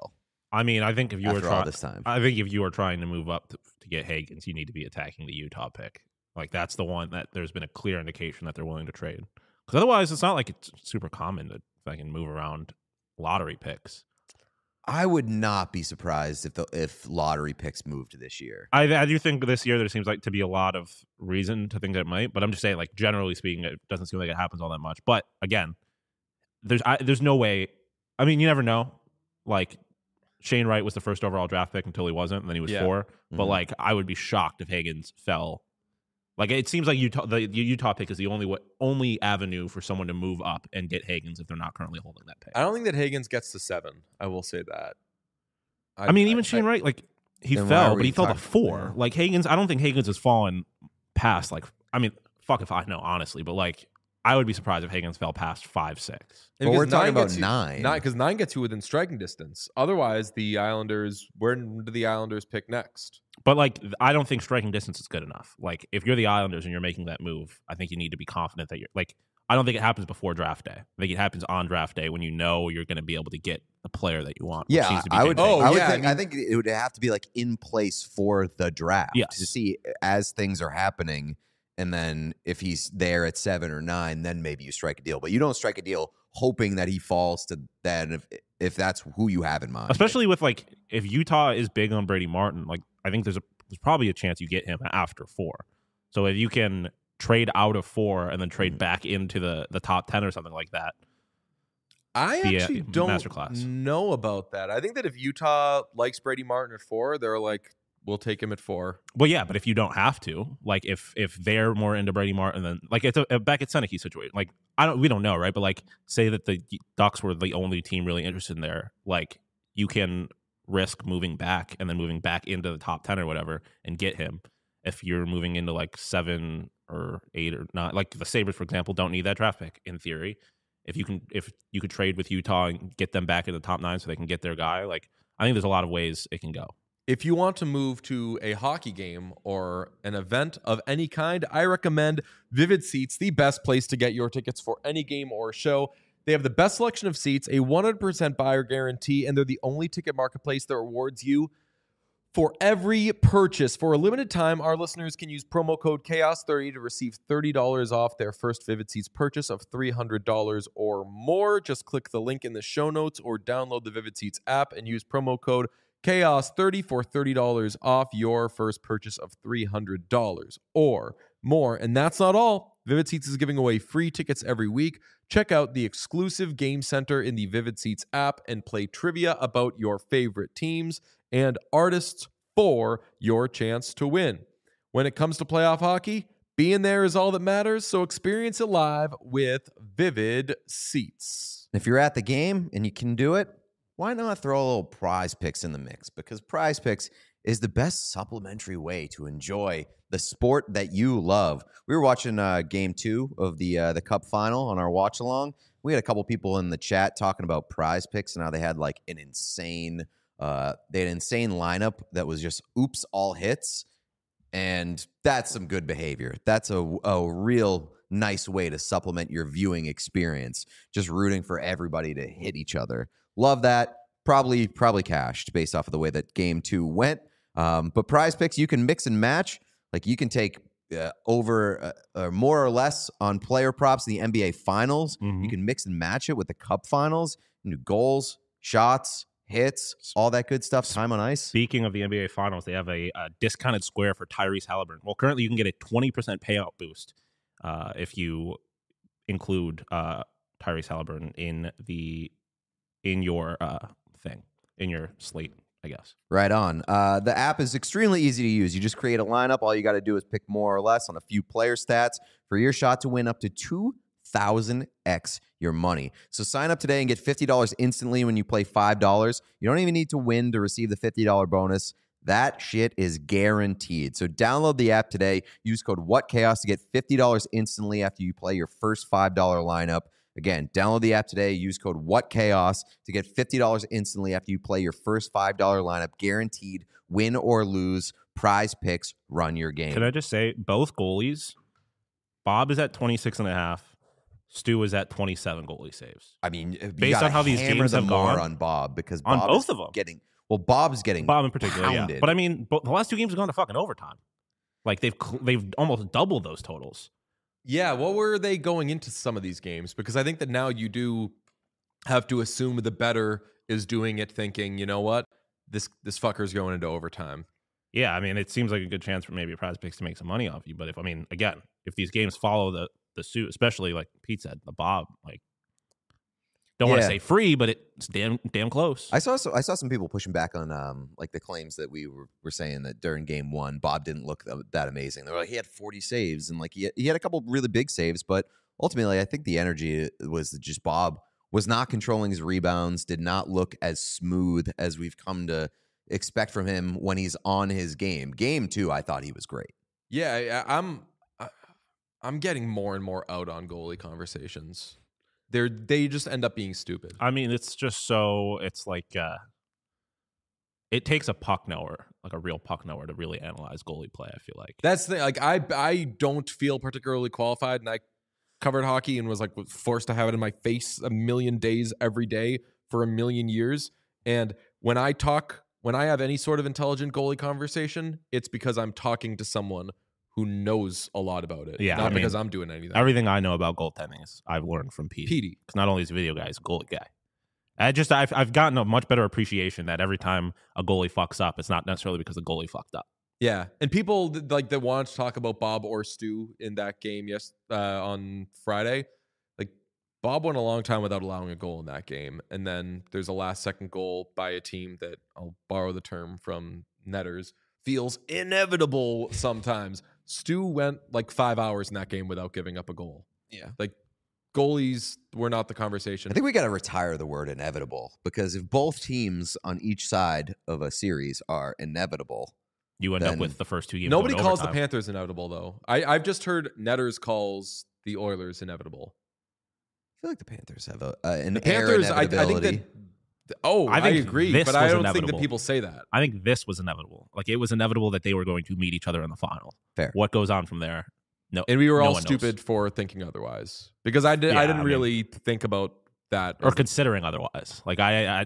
Speaker 3: I mean, I think if you were
Speaker 2: after all this time.
Speaker 3: I think if you were trying to move up to get Higgins, you need to be attacking the Utah pick. Like that's the one that there's been a clear indication that they're willing to trade. Because otherwise, it's not like it's super common to fucking move around lottery picks.
Speaker 2: I would not be surprised if lottery picks moved this year.
Speaker 3: I do think this year there seems like to be a lot of reason to think that it might, but I'm just saying, like generally speaking, it doesn't seem like it happens all that much. But again, there's no way. I mean, you never know. Like Shane Wright was the first overall draft pick until he wasn't, and then he was 4. But like, I would be shocked if Higgins fell. Like it seems like the Utah pick is the only avenue for someone to move up and get Higgins if they're not currently holding that pick.
Speaker 1: I don't think that Higgins gets to 7. I will say that.
Speaker 3: I mean, even Shane Wright, like he fell, but he fell to 4.
Speaker 2: Yeah.
Speaker 3: Like Higgins, I don't think Higgins has fallen past. Like, I mean, fuck if I know, honestly, but like, I would be surprised if Higgins fell past 5, 6.
Speaker 2: But we're talking about
Speaker 1: 9. Because 9 gets you within striking distance. Otherwise, where do the Islanders pick next?
Speaker 3: But like, I don't think striking distance is good enough. Like, if you're the Islanders and you're making that move, I think you need to be confident that you're like. I don't think it happens before draft day. I think it happens on draft day when you know you're going to be able to get the player that you want.
Speaker 2: Yeah, I would.
Speaker 1: Higgins.
Speaker 2: I think it would have to be like in place for the draft
Speaker 3: Yes.
Speaker 2: to see as things are happening. And then if he's there at 7 or 9, then maybe you strike a deal. But you don't strike a deal hoping that he falls to that if that's who you have in mind.
Speaker 3: Especially with like if Utah is big on Brady Martin, like I think there's probably a chance you get him after 4. So if you can trade out of 4 and then trade back into the top 10 or something like that.
Speaker 1: I actually don't
Speaker 3: masterclass.
Speaker 1: know about that. I think that if Utah likes Brady Martin at 4, they're like, we'll take him at 4.
Speaker 3: Well, yeah, but if you don't have to, like if they're more into Brady Martin, then like it's a Beckett Seneke situation. Like we don't know, right? But like say that the Ducks were the only team really interested in there, like you can risk moving back and then moving back into the top 10 or whatever and get him. If you're moving into like 7 or 8 or 9, like the Sabres, for example, don't need that draft pick in theory. If you could trade with Utah and get them back in the top 9 so they can get their guy, like I think there's a lot of ways it can go.
Speaker 1: If you want to move to a hockey game or an event of any kind, I recommend Vivid Seats, the best place to get your tickets for any game or show. They have the best selection of seats, a 100% buyer guarantee, and they're the only ticket marketplace that rewards you for every purchase. For a limited time, our listeners can use promo code CHAOS30 to receive $30 off their first Vivid Seats purchase of $300 or more. Just click the link in the show notes or download the Vivid Seats app and use promo code CHAOS30 for $30 off your first purchase of $300 or more. And that's not all. Vivid Seats is giving away free tickets every week. Check out the exclusive game center in the Vivid Seats app and play trivia about your favorite teams and artists for your chance to win. When it comes to playoff hockey, being there is all that matters, so experience it live with Vivid Seats.
Speaker 2: If you're at the game and you can do it, why not throw a little Prize Picks in the mix? Because Prize Picks is the best supplementary way to enjoy the sport that you love. We were watching Game 2 of the Cup Final on our watch along. We had a couple people in the chat talking about Prize Picks and how they had like an insane lineup that was just oops all hits, and that's some good behavior. That's a real nice way to supplement your viewing experience. Just rooting for everybody to hit each other. Love that. Probably cashed based off of the way that Game 2 went. But Prize Picks, you can mix and match. Like you can take over more or less on player props in the NBA Finals.
Speaker 3: Mm-hmm.
Speaker 2: You can mix and match it with the Cup Finals. You can do goals, shots, hits, all that good stuff. Time on ice.
Speaker 3: Speaking of the NBA Finals, they have a discounted square for Tyrese Halliburton. Well, currently you can get a 20% payout boost if you include Tyrese Halliburton in your thing, in your slate, I guess.
Speaker 2: Right on. The app is extremely easy to use. You just create a lineup. All you got to do is pick more or less on a few player stats for your shot to win up to 2,000x your money. So sign up today and get $50 instantly when you play $5. You don't even need to win to receive the $50 bonus. That shit is guaranteed. So download the app today. Use code WhatChaos to get $50 instantly after you play your first $5 lineup. Again, download the app today. Use code WhatChaos to get $50 instantly after you play your first $5 lineup. Guaranteed win or lose. Prize Picks, run your game.
Speaker 3: Can I just say, both goalies, Bob is at 26.5. Stu is at 27 goalie saves.
Speaker 2: I mean,
Speaker 3: based on how these games have gone
Speaker 2: on Bob, because
Speaker 3: on
Speaker 2: Bob
Speaker 3: both
Speaker 2: is
Speaker 3: of them.
Speaker 2: getting Well, Bob's getting
Speaker 3: Bob in particular,
Speaker 2: pounded.
Speaker 3: yeah. But I mean, the last two games have gone to fucking overtime. Like they've almost doubled those totals.
Speaker 1: Yeah, what were they going into some of these games? Because I think that now you do have to assume the better is doing it thinking, you know what? This fucker's going into overtime.
Speaker 3: Yeah, I mean, it seems like a good chance for maybe Prize Picks to make some money off you. But if these games follow the suit, especially like Pete said, the Bob, like, don't want to say free, but it's damn close.
Speaker 2: I saw some people pushing back on like the claims that we were saying that during game one, Bob didn't look that amazing. They were like, he had 40 saves and like he had a couple really big saves, but ultimately I think the energy was just Bob was not controlling his rebounds, did not look as smooth as we've come to expect from him when he's on his game. Game two, I thought he was great.
Speaker 1: Yeah, I'm getting more and more out on goalie conversations. They just end up being stupid.
Speaker 3: I mean, it's like it takes a puck knower, like a real puck knower, to really analyze goalie play. I feel like
Speaker 1: that's the like I don't feel particularly qualified, and I covered hockey and was like forced to have it in my face a million days every day for a million years. And when I have any sort of intelligent goalie conversation, it's because I'm talking to someone who knows a lot about it.
Speaker 3: Yeah,
Speaker 1: not because I'm doing anything.
Speaker 3: Everything I know about goaltending is I've learned from Petey. Because not only is he a video guy, he's a goalie guy. I've gotten a much better appreciation that every time a goalie fucks up, it's not necessarily because the goalie fucked up.
Speaker 1: Yeah, and people like that want to talk about Bob or Stu in that game on Friday. Like Bob went a long time without allowing a goal in that game, and then there's a last-second goal by a team that, I'll borrow the term from netters, feels inevitable sometimes. Stu went like 5 hours in that game without giving up a goal.
Speaker 2: Yeah.
Speaker 1: Like goalies were not the conversation.
Speaker 2: I think we got to retire the word inevitable, because if both teams on each side of a series are inevitable,
Speaker 3: you end up with the first two games.
Speaker 1: Nobody calls the Panthers inevitable, though. I've just heard netters calls the Oilers inevitable.
Speaker 2: I feel like the Panthers have an
Speaker 1: the Panthers,
Speaker 2: air inevitability.
Speaker 1: I think that I agree, but I don't think that people say that.
Speaker 3: I think this was inevitable. Like, it was inevitable that they were going to meet each other in the final.
Speaker 2: Fair.
Speaker 3: What goes on from there? No.
Speaker 1: And we were all stupid for thinking otherwise, because I didn't really think about that
Speaker 3: or considering otherwise. Like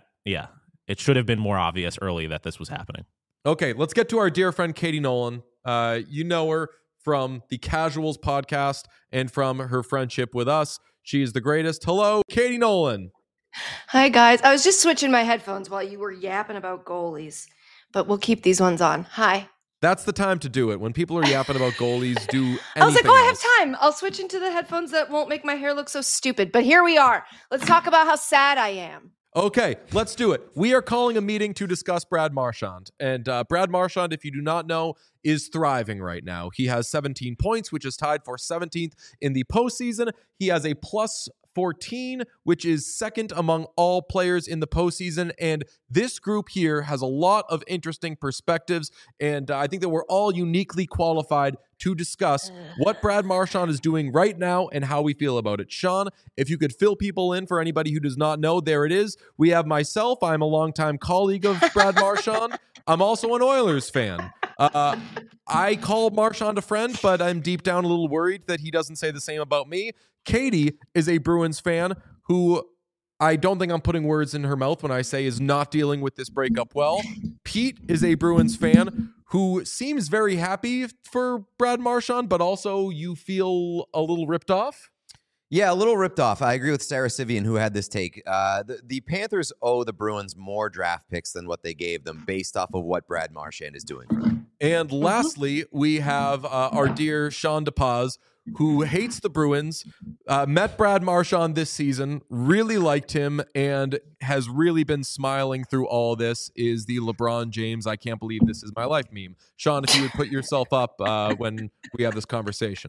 Speaker 3: it should have been more obvious early that this was happening.
Speaker 1: Okay, let's get to our dear friend Katie Nolan. You know her from the Casuals podcast and from her friendship with us. She is the greatest. Hello, Katie Nolan.
Speaker 4: Hi, guys. I was just switching my headphones while you were yapping about goalies, but we'll keep these ones on. Hi.
Speaker 1: That's the time to do it. When people are yapping about goalies, do anything
Speaker 4: I was like,
Speaker 1: else.
Speaker 4: I have time. I'll switch into the headphones that won't make my hair look so stupid. But here we are. Let's talk about how sad I am.
Speaker 1: Okay, let's do it. We are calling a meeting to discuss Brad Marchand. And Brad Marchand, if you do not know, is thriving right now. He has 17 points, which is tied for 17th in the postseason. He has a plus 14, which is second among all players in the postseason. And this group here has a lot of interesting perspectives. And I think that we're all uniquely qualified to discuss what Brad Marchand is doing right now and how we feel about it. Sean, if you could fill people in for anybody who does not know, there it is. We have myself. I'm a longtime colleague of Brad Marchand. I'm also an Oilers fan. I call Marchand a friend, but I'm deep down a little worried that he doesn't say the same about me. Katie is a Bruins fan who I don't think I'm putting words in her mouth when I say is not dealing with this breakup well. Pete is a Bruins fan who seems very happy for Brad Marchand, but also you feel a little ripped off.
Speaker 2: Yeah, a little ripped off. I agree with Sarah Sivian, who had this take. The Panthers owe the Bruins more draft picks than what they gave them based off of what Brad Marchand is doing for them.
Speaker 1: And lastly, we have our dear Sean DePaz, who hates the Bruins, met Brad Marchand this season, really liked him, and has really been smiling through all this, is the LeBron James, I can't believe this is my life meme. Sean, if you would put yourself up when we have this conversation.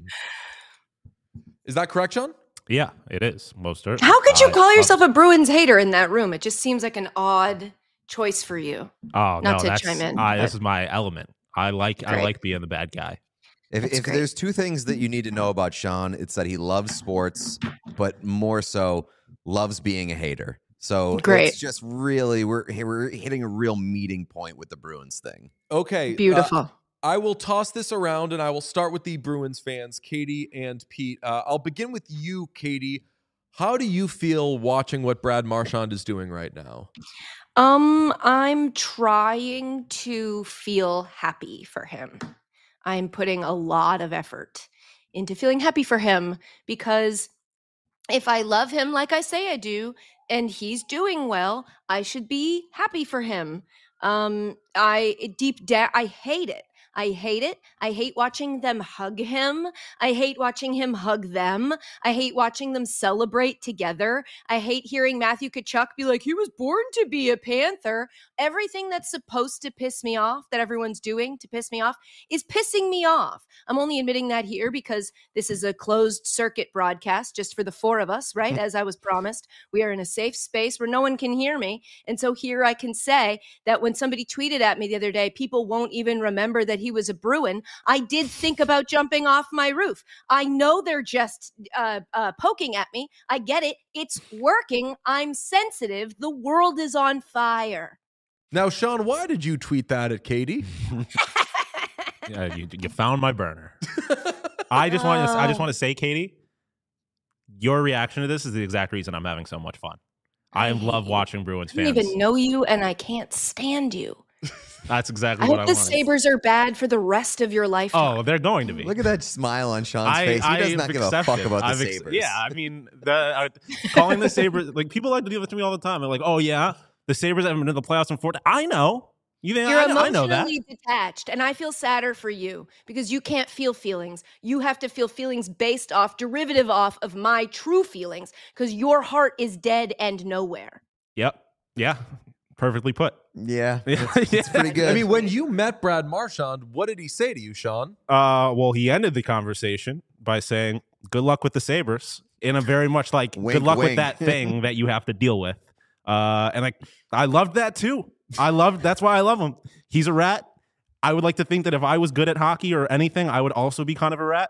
Speaker 1: Is that correct, Sean?
Speaker 3: Yeah, it is. Most certainly.
Speaker 4: How could you call yourself a Bruins hater in that room? It just seems like an odd choice for you.
Speaker 3: Oh,
Speaker 4: Not to chime in.
Speaker 3: This is my element. I like being the bad guy.
Speaker 2: If there's two things that you need to know about Sean, it's that he loves sports, but more so loves being a hater. So it's just really we're hitting a real meeting point with the Bruins thing.
Speaker 1: Okay.
Speaker 4: Beautiful.
Speaker 1: I will toss this around, and I will start with the Bruins fans, Katie and Pete. I'll begin with you, Katie. How do you feel watching what Brad Marchand is doing right now?
Speaker 4: I'm trying to feel happy for him. I'm putting a lot of effort into feeling happy for him because if I love him like I say I do, and he's doing well, I should be happy for him. Deep down, I hate it. I hate it. I hate watching them hug him. I hate watching him hug them. I hate watching them celebrate together. I hate hearing Matthew Tkachuk be like, he was born to be a Panther. Everything that's supposed to piss me off, that everyone's doing to piss me off, is pissing me off. I'm only admitting that here because this is a closed circuit broadcast just for the four of us, right? As I was promised, we are in a safe space where no one can hear me. And so here I can say that when somebody tweeted at me the other day, people won't even remember that he was a Bruin. I did think about jumping off my roof. I know they're just poking at me. I get it. It's working. I'm sensitive. The world is on fire.
Speaker 1: Now, Sean, why did you tweet that at Katie?
Speaker 3: Yeah, you found my burner. I just want to say, Katie, your reaction to this is the exact reason I'm having so much fun. I love watching Bruins fans.
Speaker 4: I don't even know you, and I can't stand you.
Speaker 3: That's exactly
Speaker 4: I
Speaker 3: what I
Speaker 4: hope the
Speaker 3: want.
Speaker 4: Sabres are bad for the rest of your lifetime.
Speaker 3: Oh, they're going to be.
Speaker 2: Look at that smile on Sean's face. He does not give a fuck about the Sabres.
Speaker 3: Yeah, I mean, calling the Sabres, like, people like to do this to me all the time. They're like, oh, yeah, the Sabres haven't been to the playoffs in 4 days. I know.
Speaker 4: You're
Speaker 3: I know that.
Speaker 4: emotionally detached, and I feel sadder for you because you can't feel feelings. You have to feel feelings based off, derivative off of my true feelings because your heart is dead and nowhere.
Speaker 3: Yep. Yeah. Perfectly put.
Speaker 2: Yeah. It's pretty good.
Speaker 1: I mean, when you met Brad Marchand, what did he say to you, Sean?
Speaker 3: Well, he ended the conversation by saying, good luck with the Sabres, in a very much like,
Speaker 2: Wink,
Speaker 3: good luck
Speaker 2: wink.
Speaker 3: with that thing that you have to deal with. And I loved that too. That's why I love him. He's a rat. I would like to think that if I was good at hockey or anything, I would also be kind of a rat.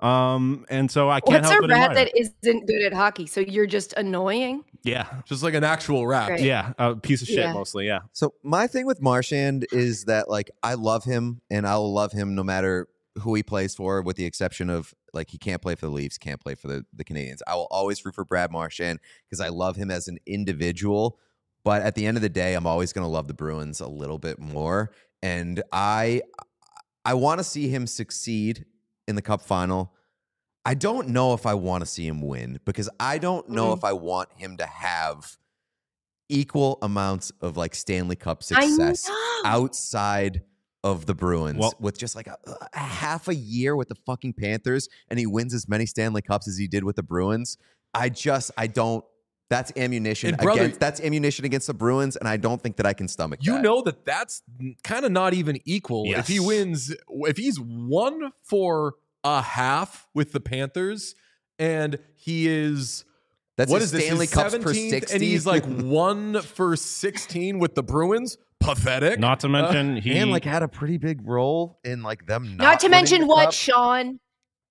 Speaker 3: And so I can't help but admire.
Speaker 4: What's a rat that isn't good at hockey? So you're just annoying?
Speaker 3: Yeah.
Speaker 1: Just like an actual rat.
Speaker 4: Right.
Speaker 3: Yeah. A piece of shit
Speaker 4: Yeah.
Speaker 3: mostly. Yeah.
Speaker 2: So my thing with Marchand is that, like, I love him and I'll love him no matter who he plays for, with the exception of, like, he can't play for the Leafs, can't play for the Canadians. I will always root for Brad Marchand because I love him as an individual. But at the end of the day, I'm always going to love the Bruins a little bit more. And I want to see him succeed in the Cup final. I don't know if I want to see him win because I don't know if I want him to have equal amounts of, like, Stanley Cup success outside of the Bruins, with just like a half a year with the fucking Panthers, and he wins as many Stanley Cups as he did with the Bruins. I don't. That's ammunition against the Bruins, and I don't think that I can stomach that.
Speaker 1: You know that's kind of not even equal.
Speaker 3: Yes.
Speaker 1: If he wins, if he's 1 for a half with the Panthers, and he is
Speaker 2: That's
Speaker 1: what
Speaker 2: his
Speaker 1: is this,
Speaker 2: Stanley
Speaker 1: his
Speaker 2: Cups per
Speaker 1: 17th,
Speaker 2: 60.
Speaker 1: and he's like 1 for 16 with the Bruins. Pathetic.
Speaker 3: Not to mention he
Speaker 2: and, like, had a pretty big role in, like, them
Speaker 4: Not to
Speaker 2: winning
Speaker 4: mention
Speaker 2: the
Speaker 4: what,
Speaker 2: Cup.
Speaker 4: Sean?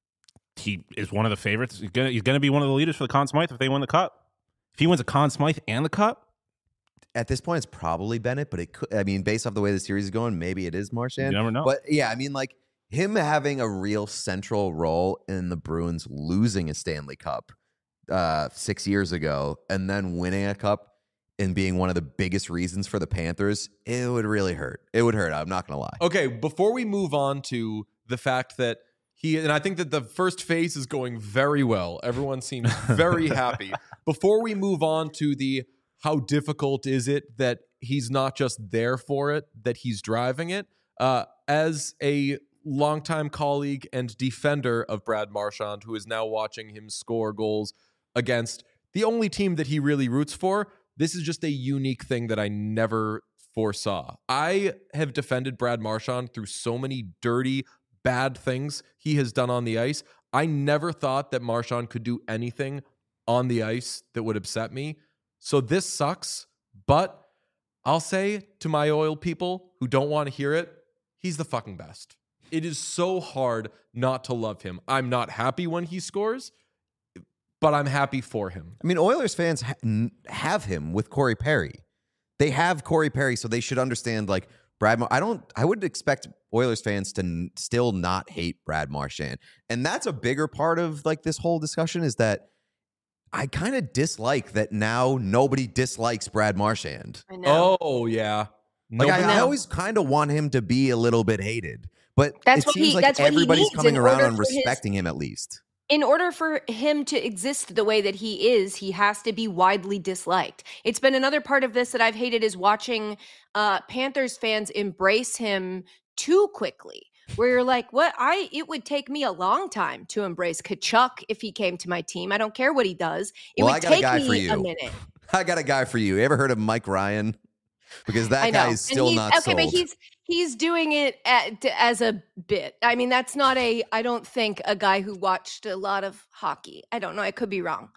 Speaker 3: he is one of the favorites. He's gonna be one of the leaders for the Conn Smythe if they win the Cup. If he wins a Conn Smythe and the Cup,
Speaker 2: At this point, it's probably Bennett, but it could. I mean, based off the way the series is going, maybe it is Marchand.
Speaker 3: you never know.
Speaker 2: But yeah, I mean, like, him having a real central role in the Bruins losing a Stanley Cup 6 years ago and then winning a cup and being one of the biggest reasons for the Panthers, it would really hurt. It would hurt. I'm not going to lie.
Speaker 1: Okay, before we move on to the fact that and I think that the first phase is going very well. Everyone seems very happy. Before we move on to the how difficult is it that he's not just there for it, that he's driving it, as a longtime colleague and defender of Brad Marchand, who is now watching him score goals against the only team that he really roots for, this is just a unique thing that I never foresaw. I have defended Brad Marchand through so many dirty, bad things he has done on the ice. I never thought that Marchand could do anything on the ice that would upset me. So this sucks, but I'll say to my oil people who don't want to hear it, he's the fucking best. It is so hard not to love him. I'm not happy when he scores, but I'm happy for him.
Speaker 2: I mean, Oilers fans have him with Corey Perry. They have Corey Perry, so they should understand, like, Brad. I would expect Oilers fans to still not hate Brad Marchand. And that's a bigger part of, like, this whole discussion, is that I kind of dislike that now nobody dislikes Brad Marchand.
Speaker 4: I know.
Speaker 1: Oh yeah.
Speaker 2: Like
Speaker 1: Nobody-
Speaker 2: I
Speaker 4: No.
Speaker 2: always kind of want him to be a little bit hated, but
Speaker 4: That's
Speaker 2: it
Speaker 4: what
Speaker 2: seems
Speaker 4: he-
Speaker 2: like
Speaker 4: that's what he
Speaker 2: everybody's
Speaker 4: needs
Speaker 2: coming
Speaker 4: in
Speaker 2: around
Speaker 4: order
Speaker 2: and
Speaker 4: for his-
Speaker 2: respecting him at least.
Speaker 4: In order for him to exist the way that he is, he has to be widely disliked. It's been another part of this that I've hated is watching Panthers fans embrace him too quickly. Where you're like, it would take me a long time to embrace Kachuk if he came to my team. I don't care what he does. It
Speaker 2: Well, I
Speaker 4: would
Speaker 2: got a
Speaker 4: take
Speaker 2: guy for
Speaker 4: me
Speaker 2: you.
Speaker 4: a minute.
Speaker 2: I got a guy for you. You ever heard of Mike Ryan? Because that
Speaker 4: I know.
Speaker 2: guy is
Speaker 4: And
Speaker 2: still not
Speaker 4: okay,
Speaker 2: sold.
Speaker 4: but he's doing it as a bit. I mean, that's not I don't think a guy who watched a lot of hockey. I don't know. I could be wrong.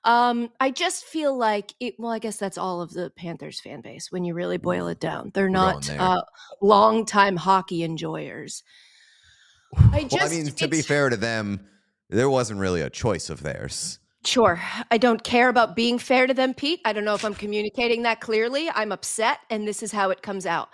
Speaker 4: I just feel like I guess that's all of the Panthers fan base when you really boil it down. They're
Speaker 2: We're
Speaker 4: not
Speaker 2: going there.
Speaker 4: longtime hockey enjoyers.
Speaker 2: Well, I mean, to be fair to them, there wasn't really a choice of theirs.
Speaker 4: Sure. I don't care about being fair to them, Pete. I don't know if I'm communicating that clearly. I'm upset, and this is how it comes out.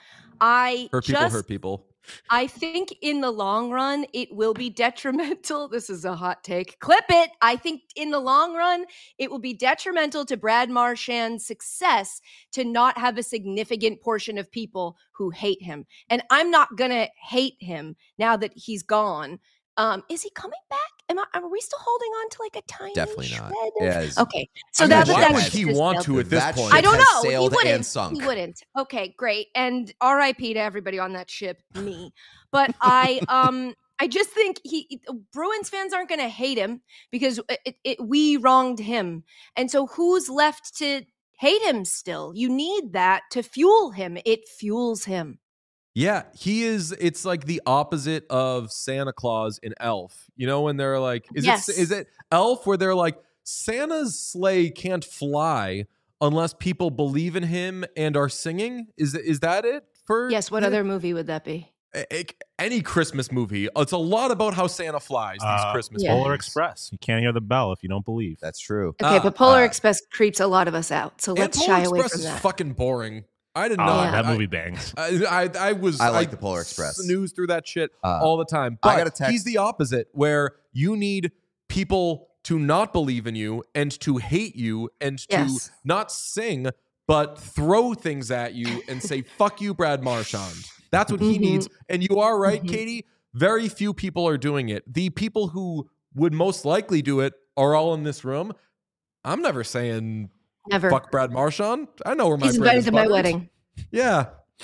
Speaker 1: hurt people.
Speaker 4: I think in the long run, it will be detrimental. This is a hot take. Clip it. I think in the long run, it will be detrimental to Brad Marchand's success to not have a significant portion of people who hate him. And I'm not going to hate him now that he's gone. Is he coming back? Are we still holding on to like a tiny
Speaker 2: Definitely not.
Speaker 4: shred?
Speaker 2: Yeah, it's-
Speaker 4: Okay. So
Speaker 1: I mean,
Speaker 4: that's
Speaker 2: why
Speaker 1: why
Speaker 2: would
Speaker 1: would
Speaker 4: that's
Speaker 1: he
Speaker 4: just
Speaker 1: want
Speaker 4: now.
Speaker 1: to at this
Speaker 2: That
Speaker 1: point?
Speaker 2: ship
Speaker 4: I don't
Speaker 2: has
Speaker 4: know. He
Speaker 2: sailed
Speaker 4: wouldn't.
Speaker 2: and sunk.
Speaker 4: He wouldn't. Okay, great. And R.I.P. to everybody on that ship, me. But I just think Bruins fans aren't going to hate him because we wronged him, and so who's left to hate him still? You need that to fuel him. It fuels him.
Speaker 1: Yeah, he is. It's like the opposite of Santa Claus in Elf. You know, when they're like,
Speaker 4: Yes.
Speaker 1: is it Elf where they're like, Santa's sleigh can't fly unless people believe in him and are singing? Is that it? For
Speaker 4: Yes. What other movie would that be?
Speaker 1: any Christmas movie? It's a lot about how Santa flies. These Christmas
Speaker 4: Yeah.
Speaker 1: movies.
Speaker 3: Polar Express. You can't hear the bell if you don't believe.
Speaker 2: That's true.
Speaker 4: Okay, but Polar Express creeps a lot of us out, so
Speaker 1: And
Speaker 4: let's
Speaker 1: Polar
Speaker 4: shy away
Speaker 1: Express
Speaker 4: from
Speaker 1: is
Speaker 4: that.
Speaker 1: fucking boring. I did
Speaker 3: Oh,
Speaker 1: not.
Speaker 3: that movie bangs.
Speaker 1: I
Speaker 2: like the Polar Express.
Speaker 1: Snooze through that shit all the time.
Speaker 2: I
Speaker 1: But
Speaker 2: got a text-
Speaker 1: he's the opposite, where you need people to not believe in you and to hate you and to
Speaker 4: Yes.
Speaker 1: not sing, but throw things at you and say, fuck you, Brad Marchand. That's what he
Speaker 4: Mhm.
Speaker 1: needs. And you are right,
Speaker 4: Mhm.
Speaker 1: Katie. Very few people are doing it. The people who would most likely do it are all in this room. I'm never saying
Speaker 4: Never.
Speaker 1: fuck Brad Marchand. I know where my
Speaker 4: He's
Speaker 1: bread
Speaker 4: invited
Speaker 1: is
Speaker 4: to my
Speaker 1: buttered.
Speaker 4: wedding.
Speaker 1: Yeah.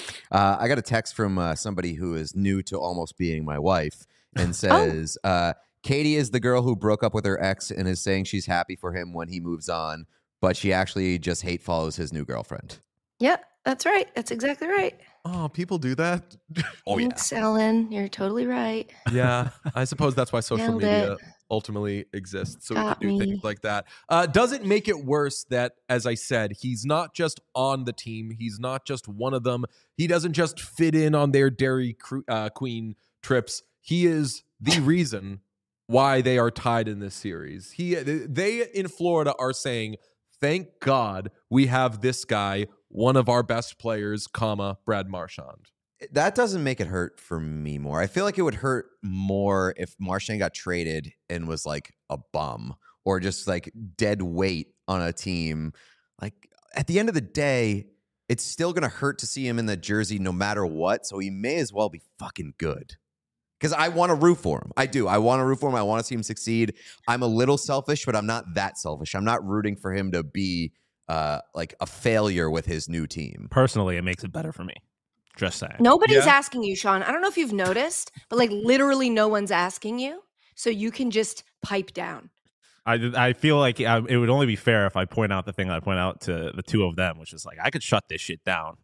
Speaker 2: I got a text from somebody who is new to almost being my wife
Speaker 4: Oh.
Speaker 2: and says, Katie is the girl who broke up with her ex and is saying she's happy for him when he moves on, but she actually just hate follows his new girlfriend.
Speaker 4: Yeah, that's right. That's exactly right.
Speaker 1: Oh, people do that.
Speaker 2: Oh, yeah.
Speaker 4: Thanks, Ellen. You're totally right.
Speaker 1: Yeah, I suppose that's why social
Speaker 4: Nailed
Speaker 1: media
Speaker 4: it.
Speaker 1: ultimately exists, so we
Speaker 4: Got
Speaker 1: can do
Speaker 4: me.
Speaker 1: things like that. Does it make it worse that, as I said, he's not just on the team, he's not just one of them, he doesn't just fit in on their Dairy Queen trips, he is the reason why they are tied in this series. They in Florida are saying, thank God we have this guy, one of our best players, Brad Marchand.
Speaker 2: That doesn't make it hurt for me more. I feel like it would hurt more if Marchand got traded and was like a bum or just like dead weight on a team. Like at the end of the day, it's still going to hurt to see him in the jersey no matter what. So he may as well be fucking good. Because I want to root for him. I do. I want to root for him. I want to see him succeed. I'm a little selfish, but I'm not that selfish. I'm not rooting for him to be like a failure with his new team.
Speaker 3: Personally, it makes it better for me. Just saying.
Speaker 4: Nobody's
Speaker 1: Yeah.
Speaker 4: asking you, Sean. I don't know if you've noticed, but like literally no one's asking you. So you can just pipe down.
Speaker 3: I feel like it would only be fair if I point out the thing I point out to the two of them, which is like I could shut this shit down.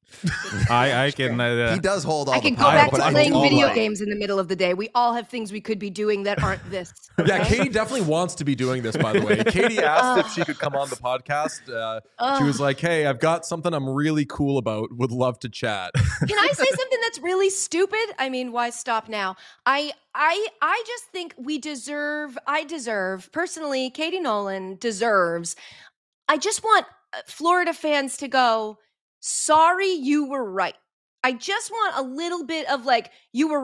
Speaker 3: I can.
Speaker 2: He does hold all
Speaker 4: I can
Speaker 2: the
Speaker 4: go
Speaker 2: power,
Speaker 4: back
Speaker 2: but
Speaker 4: to
Speaker 2: I
Speaker 4: playing
Speaker 2: do
Speaker 4: video
Speaker 2: like-
Speaker 4: games in the middle of the day. We all have things we could be doing that aren't this.
Speaker 1: Yeah,
Speaker 4: okay?
Speaker 1: Katie definitely wants to be doing this, by the way. Katie asked if she could come on the podcast. She was like, hey, I've got something I'm really cool about. Would love to chat.
Speaker 4: Can I say something that's really stupid? I mean, why stop now? I just think I deserve, personally, Katie Nolan deserves. I just want Florida fans to go, sorry, you were right. I just want a little bit of like, you were right.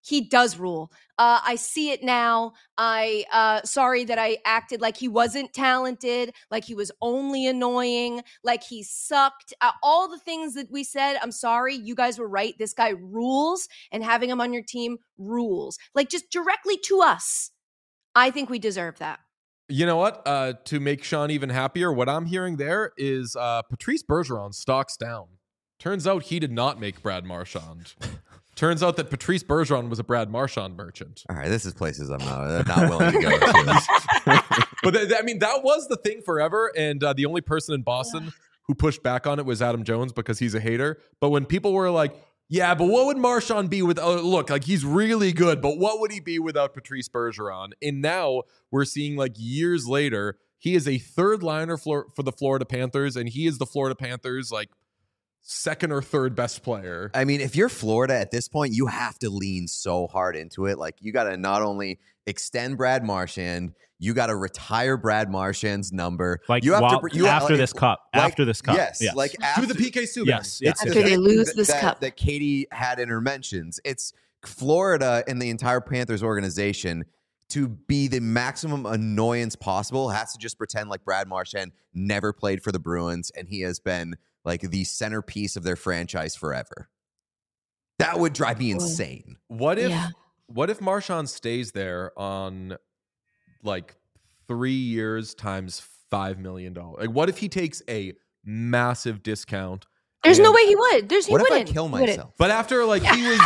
Speaker 4: He does rule. I see it now. Sorry that I acted like he wasn't talented, like he was only annoying, like he sucked. All the things that we said, I'm sorry. You guys were right. This guy rules, and having him on your team rules. Like, just directly to us. I think we deserve that.
Speaker 1: You know what? To make Sean even happier, what I'm hearing there is Patrice Bergeron stocks down. Turns out he did not make Brad Marchand. Turns out that Patrice Bergeron was a Brad Marchand merchant.
Speaker 2: All right, this is places I'm not willing to go to.
Speaker 1: But that was the thing forever. And the only person in Boston who pushed back on it was Adam Jones because he's a hater. But when people were like, yeah, but what would Marchand be without, look, like he's really good, but what would he be without Patrice Bergeron? And now we're seeing like years later, he is a third liner for the Florida Panthers, and he is the Florida Panthers like second or third best player.
Speaker 2: I mean, if you're Florida at this point, you have to lean so hard into it. Like, you got to not only extend Brad Marchand, you got to retire Brad Marchand's number.
Speaker 3: Like,
Speaker 2: you have
Speaker 3: after this cup.
Speaker 2: Yes, like
Speaker 1: do the PK Subban.
Speaker 3: Yes.
Speaker 4: After they lose this cup.
Speaker 2: That Katie had in her mentions. It's Florida and the entire Panthers organization, to be the maximum annoyance possible, has to just pretend like Brad Marchand never played for the Bruins and he has been like the centerpiece of their franchise forever. That would drive me insane.
Speaker 1: What if Marchand stays there on like 3 years times $5 million? Like, what if he takes a massive discount?
Speaker 4: There's no way he would.
Speaker 2: What if I kill myself?
Speaker 1: But after like he was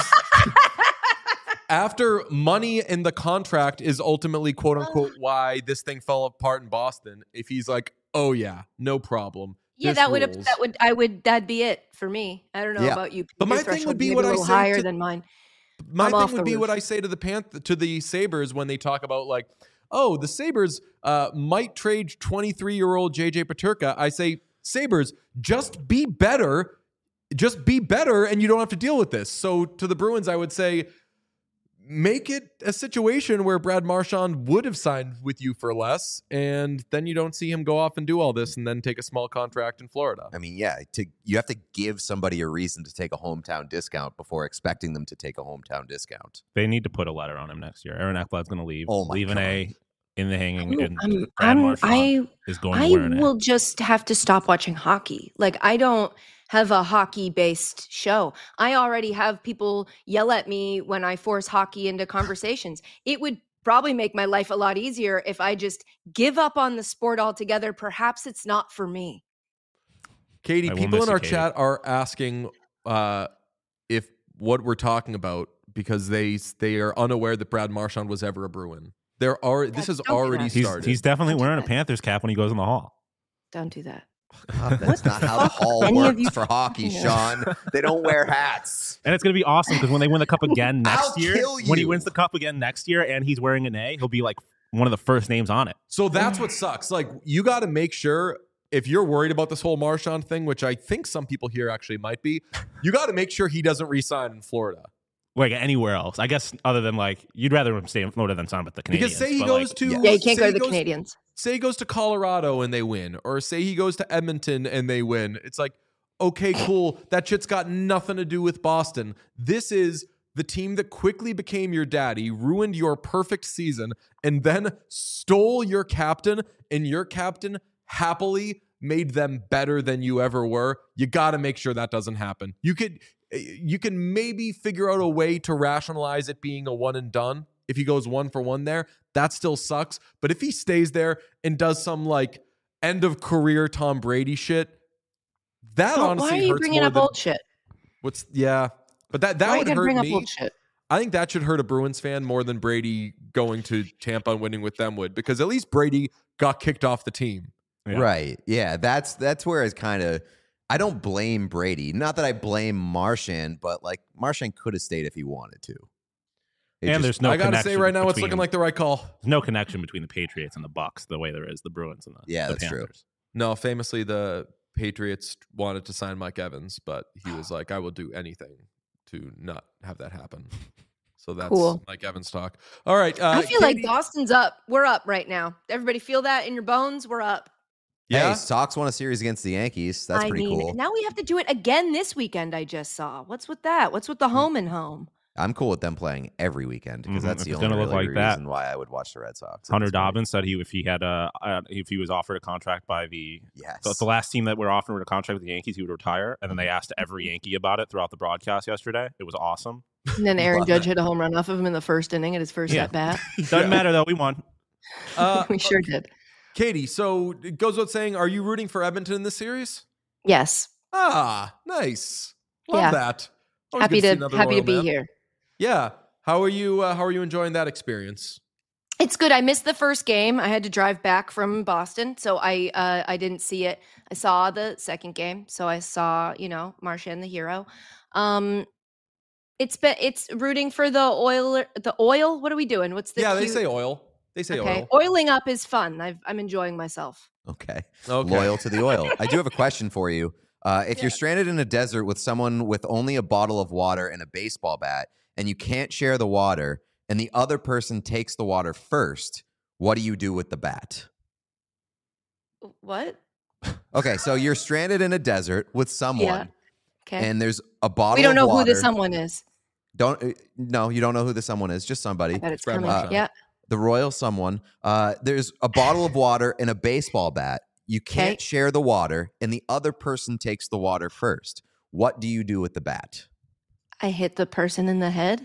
Speaker 1: after money in the contract is ultimately quote unquote why this thing fell apart in Boston, if he's like, oh yeah, no problem.
Speaker 4: Yeah, that'd be it for me. I don't know about you.
Speaker 1: But
Speaker 4: Your
Speaker 1: my thing
Speaker 4: threshold
Speaker 1: would be
Speaker 4: may
Speaker 1: what
Speaker 4: a
Speaker 1: I
Speaker 4: little
Speaker 1: say
Speaker 4: higher than mine.
Speaker 1: My thing would be what I say to the Sabres when they talk about like, oh, the Sabres might trade 23-year-old JJ Peterka. I say, Sabres, just be better. Just be better and you don't have to deal with this. So to the Bruins, I would say, make it a situation where Brad Marchand would have signed with you for less, and then you don't see him go off and do all this and then take a small contract in Florida.
Speaker 2: I mean, yeah, you have to give somebody a reason to take a hometown discount before expecting them to take a hometown discount.
Speaker 3: They need to put a letter on him next year. Aaron Ekblad's going to leave.
Speaker 2: Oh my
Speaker 3: leave an
Speaker 2: God.
Speaker 3: A in the hanging. And Brad Marchand is going to wear an A.
Speaker 4: will just have to stop watching hockey. Like, I don't have a hockey-based show. I already have people yell at me when I force hockey into conversations. It would probably make my life a lot easier if I just give up on the sport altogether. Perhaps it's not for me.
Speaker 1: Katie, people in our chat are asking if what we're talking about because they are unaware that Brad Marchand was ever a Bruin. This has already started.
Speaker 3: He's definitely wearing a Panthers cap when he goes in the hall.
Speaker 4: Don't do that.
Speaker 2: That's not how the hall works for hockey, Sean. They don't wear hats.
Speaker 3: And it's going to be awesome because when they win the cup again next year,
Speaker 2: kill you.
Speaker 3: when he wins the cup again next year and he's wearing an A, he'll be like one of the first names on it.
Speaker 1: So that's what sucks. Like, you got to make sure, if you're worried about this whole Marchand thing, which I think some people here actually might be, you got to make sure he doesn't re-sign in Florida.
Speaker 3: Like anywhere else, I guess, other than like, you'd rather him stay in Florida than sign with the Canadiens.
Speaker 1: Because say he goes to...
Speaker 4: Yeah, you can't go to the Canadiens.
Speaker 1: Say he goes to Colorado and they win, or say he goes to Edmonton and they win. It's like, okay, cool. That shit's got nothing to do with Boston. This is the team that quickly became your daddy, ruined your perfect season, and then stole your captain, and your captain happily made them better than you ever were. You got to make sure that doesn't happen. You can maybe figure out a way to rationalize it being a one and done. If he goes 1 for 1 there, that still sucks. But if he stays there and does some like end of career Tom Brady shit, that honestly hurts.
Speaker 4: Why are you bringing up old shit?
Speaker 1: But that would hurt
Speaker 4: bring
Speaker 1: me.
Speaker 4: Up old shit?
Speaker 1: I think that should hurt a Bruins fan more than Brady going to Tampa and winning with them would, because at least Brady got kicked off the team.
Speaker 3: Yeah.
Speaker 2: Right. Yeah, that's where it's kind of, I don't blame Brady. Not that I blame Marchand, but like Marchand could have stayed if he wanted to.
Speaker 3: There's no
Speaker 1: I gotta say right now, it's
Speaker 3: between-
Speaker 1: looking like the right call.
Speaker 3: There's no connection between the Patriots and the Bucks the way there is the Bruins and the
Speaker 2: that's
Speaker 3: Panthers.
Speaker 2: true.
Speaker 1: No, famously, the Patriots wanted to sign Mike Evans, but he was like, I will do anything to not have that happen. So that's
Speaker 4: cool.
Speaker 1: Mike Evans talk. All right.
Speaker 4: I feel like Boston's up. We're up right now. Everybody feel that in your bones? We're up.
Speaker 2: Yeah.
Speaker 1: Yeah.
Speaker 2: Hey, Sox won a series against the Yankees. That's pretty cool.
Speaker 4: Now we have to do it again this weekend, I just saw. What's with that? What's with the home and home?
Speaker 2: I'm cool with them playing every weekend because that's
Speaker 3: If
Speaker 2: the
Speaker 3: it's
Speaker 2: only
Speaker 3: gonna look
Speaker 2: really
Speaker 3: like that.
Speaker 2: reason why I would watch the Red Sox. at
Speaker 3: Hunter
Speaker 2: this point.
Speaker 3: Dobbins said if he was offered a contract by the
Speaker 2: Yes.
Speaker 3: last team that were offering a contract with the Yankees, he would retire. And then they asked every Yankee about it throughout the broadcast yesterday. It was awesome.
Speaker 4: And then Aaron
Speaker 2: Love
Speaker 4: Judge
Speaker 2: it.
Speaker 4: hit a home run off of him in the first inning at his first
Speaker 3: Yeah.
Speaker 4: at bat.
Speaker 3: Doesn't matter though. We won.
Speaker 4: We sure did.
Speaker 1: Katie, so it goes without saying, are you rooting for Edmonton in this series?
Speaker 4: Yes.
Speaker 1: Ah, nice. Love
Speaker 4: Yeah.
Speaker 1: that. Always
Speaker 4: Happy
Speaker 1: good see
Speaker 4: to
Speaker 1: another
Speaker 4: happy to
Speaker 1: Royal
Speaker 4: be
Speaker 1: man.
Speaker 4: here.
Speaker 1: Yeah. How are you enjoying that experience?
Speaker 4: It's good. I missed the first game. I had to drive back from Boston, so I didn't see it. I saw the second game, so I saw, Marchand the hero. It's rooting for the oil. What are we doing? What's the
Speaker 1: They
Speaker 4: cute-
Speaker 1: say oil. They say
Speaker 4: okay.
Speaker 1: oil.
Speaker 4: Oiling up is fun. I'm enjoying myself.
Speaker 2: Okay.
Speaker 1: Okay.
Speaker 2: Loyal to the oil. I do have a question for you. If you're stranded in a desert with someone with only a bottle of water and a baseball bat, and you can't share the water, and the other person takes the water first, what do you do with the bat?
Speaker 4: What?
Speaker 2: Okay, so you're stranded in a desert with someone,
Speaker 4: Yeah. Okay.
Speaker 2: and there's a bottle.
Speaker 4: We don't know
Speaker 2: of water.
Speaker 4: who the someone is.
Speaker 2: No, you don't know who the someone is. Just somebody.
Speaker 4: I bet it's
Speaker 1: Brad
Speaker 4: coming.
Speaker 1: Marchand.
Speaker 4: Yeah.
Speaker 2: The royal someone. There's a bottle of water and a baseball bat. You can't
Speaker 4: Okay.
Speaker 2: share the water, and the other person takes the water first. What do you do with the bat?
Speaker 4: I hit the person in the head.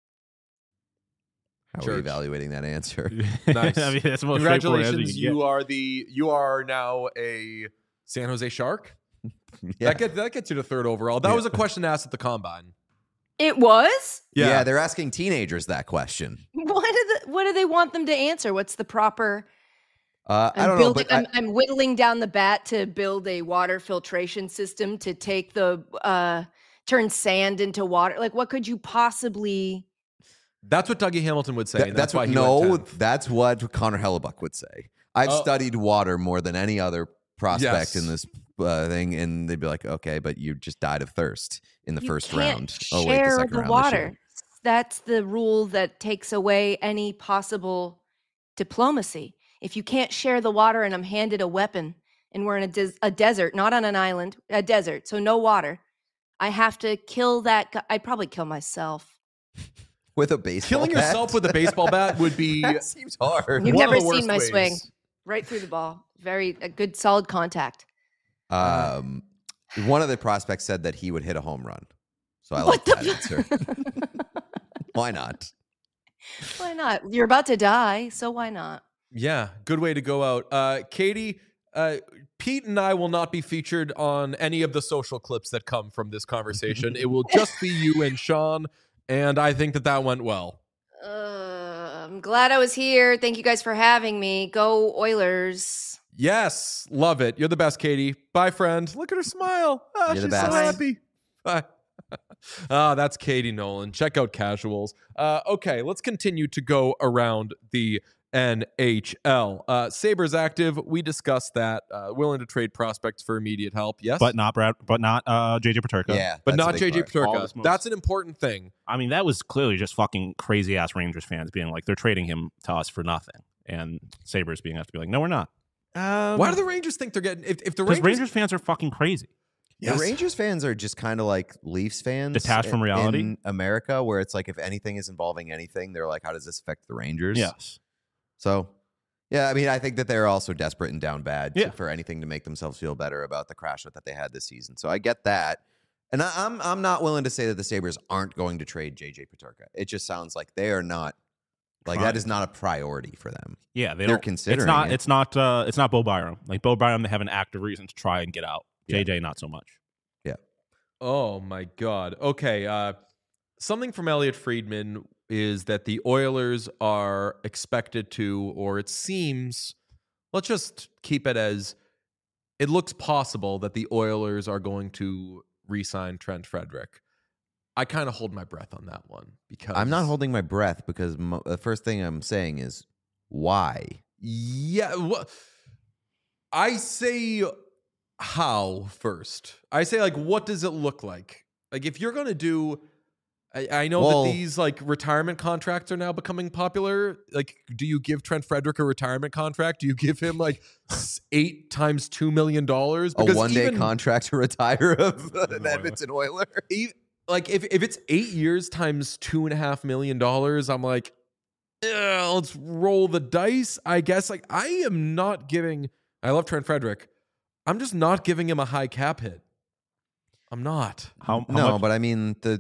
Speaker 2: How are
Speaker 1: Church.
Speaker 2: you evaluating that answer?
Speaker 1: Nice.
Speaker 3: I mean, that's the most straightforward answer
Speaker 1: Congratulations.
Speaker 3: you can get.
Speaker 1: You are now a San Jose Shark.
Speaker 2: Yeah.
Speaker 1: That gets you to third overall. That was a question asked at the combine.
Speaker 4: It was?
Speaker 2: Yeah, they're asking teenagers that question.
Speaker 4: What do they want them to answer? What's the proper?
Speaker 2: I don't know, but
Speaker 4: I'm whittling down the bat to build a water filtration system to take the turn sand into water. Like, what could you possibly?
Speaker 1: That's what Dougie Hamilton would say. and
Speaker 2: that's
Speaker 1: why
Speaker 2: what
Speaker 1: he went 10th.
Speaker 2: that's what Connor Hellebuck would say. I've studied water more than any other prospect
Speaker 1: Yes.
Speaker 2: in this thing, and they'd be like, "Okay, but you just died of thirst in the
Speaker 4: You
Speaker 2: first
Speaker 4: can't
Speaker 2: round."
Speaker 4: Share
Speaker 2: second
Speaker 4: the
Speaker 2: round.
Speaker 4: water. That's the rule that takes away any possible diplomacy. If you can't share the water, and I'm handed a weapon, and we're in a desert, not on an island, a desert, so no water, I have to kill that guy. I'd probably kill myself.
Speaker 2: With a baseball
Speaker 1: Killing
Speaker 2: bat?
Speaker 1: yourself with a baseball bat would be
Speaker 2: That seems hard.
Speaker 4: You've
Speaker 1: one of
Speaker 4: never
Speaker 1: the worst
Speaker 4: seen my
Speaker 1: ways.
Speaker 4: swing. Right through the ball. A good solid contact.
Speaker 2: One of the prospects said that he would hit a home run. So I
Speaker 4: What
Speaker 2: like
Speaker 4: the-
Speaker 2: that answer. Why not?
Speaker 4: Why not? You're about to die, so why not?
Speaker 1: Yeah, good way to go out. Katie, Pete and I will not be featured on any of the social clips that come from this conversation. It will just be you and Sean, and I think that went well.
Speaker 4: I'm glad I was here. Thank you guys for having me. Go Oilers.
Speaker 1: Yes, love it. You're the best, Katie. Bye, friend. Look at her smile. Oh,
Speaker 2: You're
Speaker 1: she's
Speaker 2: the best.
Speaker 1: so happy. Bye. That's Katie Nolan. Check out Casuals. Okay, let's continue to go around the NHL. Sabres active. We discussed that. Willing to trade prospects for immediate help. Yes,
Speaker 3: But not JJ Paterka.
Speaker 2: Yeah.
Speaker 1: but
Speaker 2: that's a
Speaker 1: not
Speaker 2: big
Speaker 1: JJ
Speaker 2: part.
Speaker 3: All
Speaker 1: Paterka.
Speaker 3: this moves.
Speaker 1: That's an important thing.
Speaker 3: I mean, that was clearly just fucking crazy ass Rangers fans being like, they're trading him to us for nothing, and Sabres being have to be like, no, we're not.
Speaker 1: Why do the Rangers think they're getting? If the
Speaker 3: Because
Speaker 1: Rangers,
Speaker 3: Rangers fans are fucking crazy.
Speaker 2: The Rangers fans are just kind of like Leafs fans.
Speaker 3: Detached from reality?
Speaker 2: In America, where it's like if anything is involving anything, they're like, how does this affect the Rangers?
Speaker 3: Yes.
Speaker 2: So, yeah, I mean, I think that they're also desperate and down bad
Speaker 3: Yeah.
Speaker 2: for anything to make themselves feel better about the crash that they had this season. So I get that. And I'm not willing to say that the Sabres aren't going to trade JJ Paterka. It just sounds like they are not, like that is not a priority for them.
Speaker 3: Yeah,
Speaker 2: They're
Speaker 3: don't,
Speaker 2: considering it.
Speaker 3: It's not Bo Byram. Like Bo Byram, they have an active reason to try and get out. JJ, not so much.
Speaker 1: Oh my God. Okay. Something from Elliot Friedman is that the Oilers are expected to, or it seems, let's just keep it as it looks possible that the Oilers are going to re-sign Trent Frederick. I kind of hold my breath on that one because
Speaker 2: I'm not holding my breath because the first thing I'm saying is why?
Speaker 1: Yeah. I say how first. I say, like, what does it look like? Like, if you're going to do, I know
Speaker 2: Well-
Speaker 1: that these, like, retirement contracts are now becoming popular. Like, do you give Trent Frederick a retirement contract? Do you give him, like, 8 times $2 million?
Speaker 2: A one-day contract to retire of an Edmonton Oiler?
Speaker 1: like if it's 8 years times $2.5 million, I'm like, let's roll the dice, I guess. Like, I love Trent Frederick. I'm just not giving him a high cap hit. I'm not.
Speaker 3: How
Speaker 2: No,
Speaker 3: much?
Speaker 2: but I mean the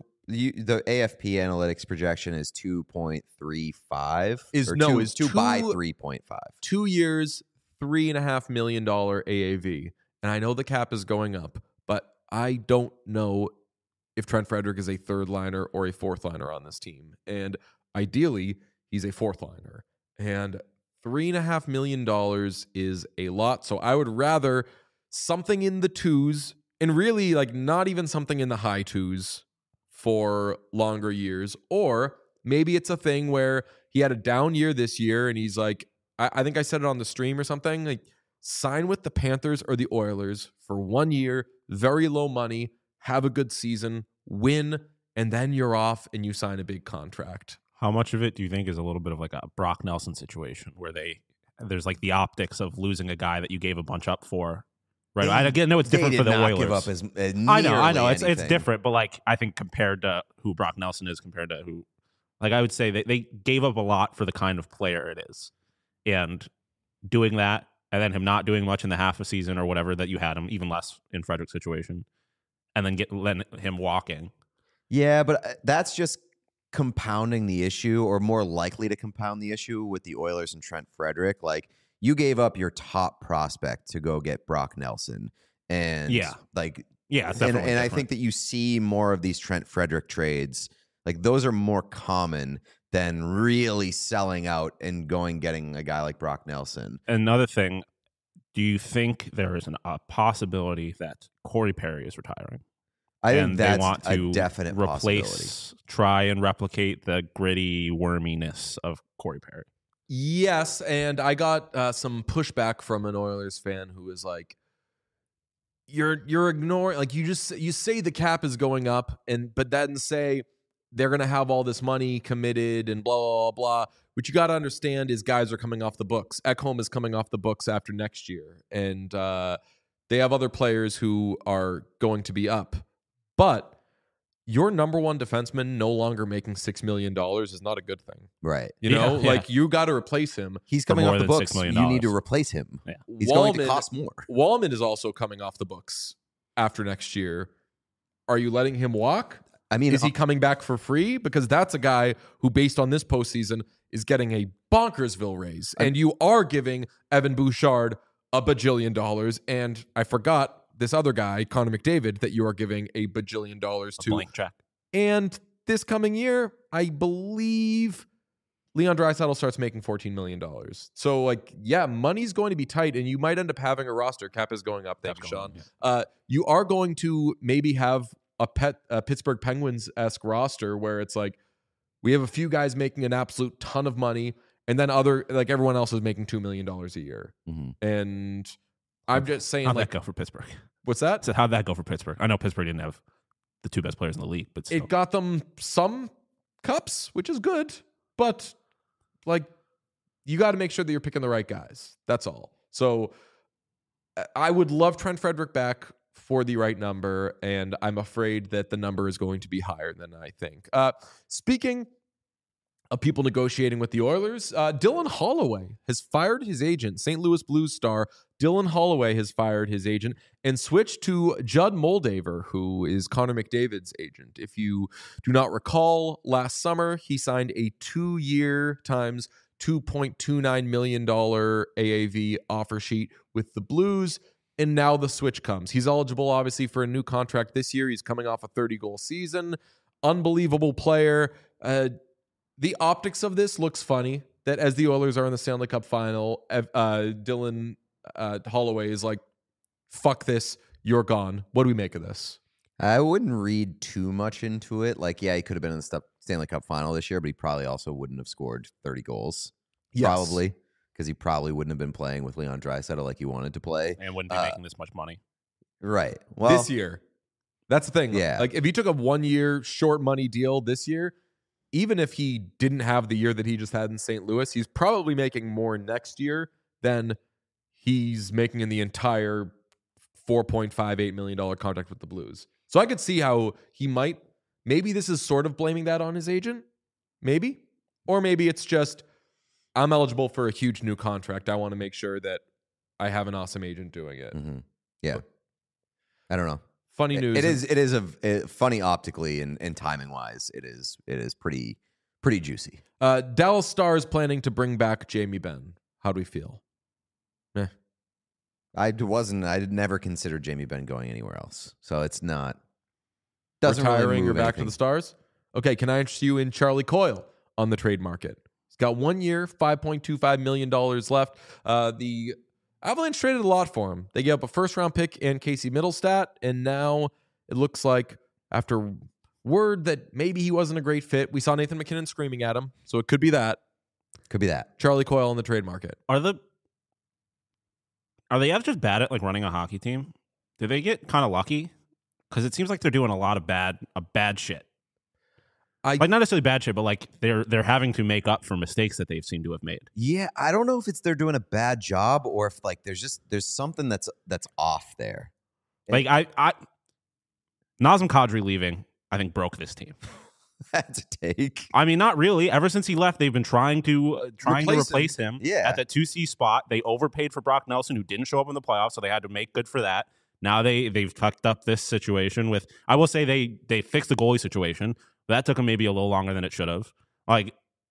Speaker 2: AFP analytics projection is 2.35.
Speaker 1: Is
Speaker 2: 2 by 3.5.
Speaker 1: 2 years, $3.5 million AAV. And I know the cap is going up, but I don't know if Trent Frederick is a third liner or a fourth liner on this team. And ideally, he's a fourth liner. And $3.5 million is a lot. So I would rather something in the twos, and really like not even something in the high twos for longer years. Or maybe it's a thing where he had a down year this year and he's like, I think I said it on the stream or something, like sign with the Panthers or the Oilers for 1 year, very low money, have a good season, win, and then you're off and you sign a big contract.
Speaker 3: How much of it do you think is a little bit of like a Brock Nelson situation where there's like the optics of losing a guy that you gave a bunch up for? Right. I know it's different for the Oilers.
Speaker 2: Give up as
Speaker 3: I know. It's
Speaker 2: anything.
Speaker 3: different, but like I think compared to who Brock Nelson is compared to who, like I would say they gave up a lot for the kind of player it is, and doing that and then him not doing much in the half a season or whatever that you had him, even less in Frederick's situation, and then letting him walking.
Speaker 2: Yeah, but that's just compounding the issue, or more likely to compound the issue with the Oilers and Trent Frederick. Like, you gave up your top prospect to go get Brock Nelson, and
Speaker 3: it's
Speaker 2: and I think that you see more of these Trent Frederick trades. Like, those are more common than really selling out and getting a guy like Brock Nelson.
Speaker 3: Another thing, do you think there is a possibility that Corey Perry is retiring?
Speaker 2: I think that's
Speaker 3: they want to
Speaker 2: a definite possibility.
Speaker 3: Try and replicate the gritty worminess of Corey Perry.
Speaker 1: Yes, and I got some pushback from an Oilers fan who was like, "You're ignoring, like, you say the cap is going up, but then say they're going to have all this money committed and blah blah blah." What you got to understand is guys are coming off the books. Ekholm is coming off the books after next year, and they have other players who are going to be up. But your number one defenseman no longer making $6 million is not a good thing.
Speaker 2: Right.
Speaker 1: You know,
Speaker 3: Yeah.
Speaker 1: like, you got to replace him.
Speaker 2: He's coming
Speaker 3: more
Speaker 2: off the
Speaker 3: than
Speaker 2: books.
Speaker 3: $6 million.
Speaker 2: You need to replace him.
Speaker 3: Yeah.
Speaker 2: He's going to cost more.
Speaker 1: Wallman is also coming off the books after next year. Are you letting him walk?
Speaker 2: I mean,
Speaker 1: Is he coming back for free? Because that's a guy who, based on this postseason, is getting a bonkersville raise. And you are giving Evan Bouchard a bajillion dollars. And I forgot this other guy, Connor McDavid, that you are giving a bajillion dollars to.
Speaker 3: Blank check.
Speaker 1: And this coming year, I believe Leon Draisaitl starts making $14 million. So, like, yeah, money's going to be tight, and you might end up having a roster. Cap is going up. Thank you, Sean. You are going to maybe have a Pittsburgh Penguins-esque roster where it's like, we have a few guys making an absolute ton of money, and then everyone else is making $2 million a year.
Speaker 2: Mhm.
Speaker 1: And I'm just saying,
Speaker 3: How'd
Speaker 1: like,
Speaker 3: that go for Pittsburgh?
Speaker 1: what's that?
Speaker 3: So how'd that go for Pittsburgh? I know Pittsburgh didn't have the two best players in the league, but still.
Speaker 1: It got them some cups, which is good, but like, you got to make sure that you're picking the right guys. That's all. So I would love Trent Frederick back for the right number, and I'm afraid that the number is going to be higher than I think. Speaking of people negotiating with the Oilers, Dylan Holloway has fired his agent. St. Louis Blues star Dylan Holloway has fired his agent and switched to Judd Moldaver, who is Connor McDavid's agent. If you do not recall, last summer he signed a 2-year times $2.29 million AAV offer sheet with the Blues, and now the switch comes. He's eligible, obviously, for a new contract this year. He's coming off a 30-goal season. Unbelievable player. The optics of this looks funny, that as the Oilers are in the Stanley Cup final, Dylan Holloway is like, fuck this, you're gone. What do we make of this?
Speaker 2: I wouldn't read too much into it. Like, yeah, he could have been in the Stanley Cup final this year, but he probably also wouldn't have scored 30 goals.
Speaker 1: Yes.
Speaker 2: Probably, because he probably wouldn't have been playing with Leon Draisaitl like he wanted to play.
Speaker 3: And wouldn't be making this much money.
Speaker 2: Right. Well,
Speaker 1: This year. That's the thing.
Speaker 2: Yeah.
Speaker 1: Like, if he took a 1-year short money deal this year, even if he didn't have the year that he just had in St. Louis, he's probably making more next year than he's making in the entire $4.58 million contract with the Blues. So I could see how he might, maybe this is sort of blaming that on his agent, maybe. Or maybe it's just, I'm eligible for a huge new contract. I want to make sure that I have an awesome agent doing it.
Speaker 2: Mm-hmm. Yeah. I don't know.
Speaker 1: Funny news.
Speaker 2: It is a funny optically and timing wise. It is pretty juicy.
Speaker 1: Dallas Stars planning to bring back Jamie Benn. How do we feel?
Speaker 2: I did never consider Jamie Benn going anywhere else. So it's not doesn't
Speaker 1: Retiring
Speaker 2: really
Speaker 1: or
Speaker 2: move
Speaker 1: back
Speaker 2: anything.
Speaker 1: to the Stars? Okay, can I interest you in Charlie Coyle on the trade market? He's got 1 year, $5.25 million left. The Avalanche traded a lot for him. They gave up a first-round pick and Casey Middlestat, and now it looks like after word that maybe he wasn't a great fit, we saw Nathan McKinnon screaming at him, so it could be that.
Speaker 2: Could be that.
Speaker 1: Charlie Coyle on the trade market.
Speaker 3: Are the Avs just bad at like running a hockey team? Do they get kind of lucky? Because it seems like they're doing a lot of bad shit. Like not necessarily bad shit, but like they're having to make up for mistakes that they've seemed to have made.
Speaker 2: Yeah, I don't know if it's they're doing a bad job or if like there's something that's off there.
Speaker 3: Like I Nazem Kadri leaving, I think broke this team.
Speaker 2: That's a take.
Speaker 3: I mean, not really. Ever since he left, they've been trying to replace him.
Speaker 2: Yeah.
Speaker 3: At that 2C spot. They overpaid for Brock Nelson, who didn't show up in the playoffs, so they had to make good for that. Now they've fucked up this situation with. I will say they fixed the goalie situation. That took them maybe a little longer than it should have. Like,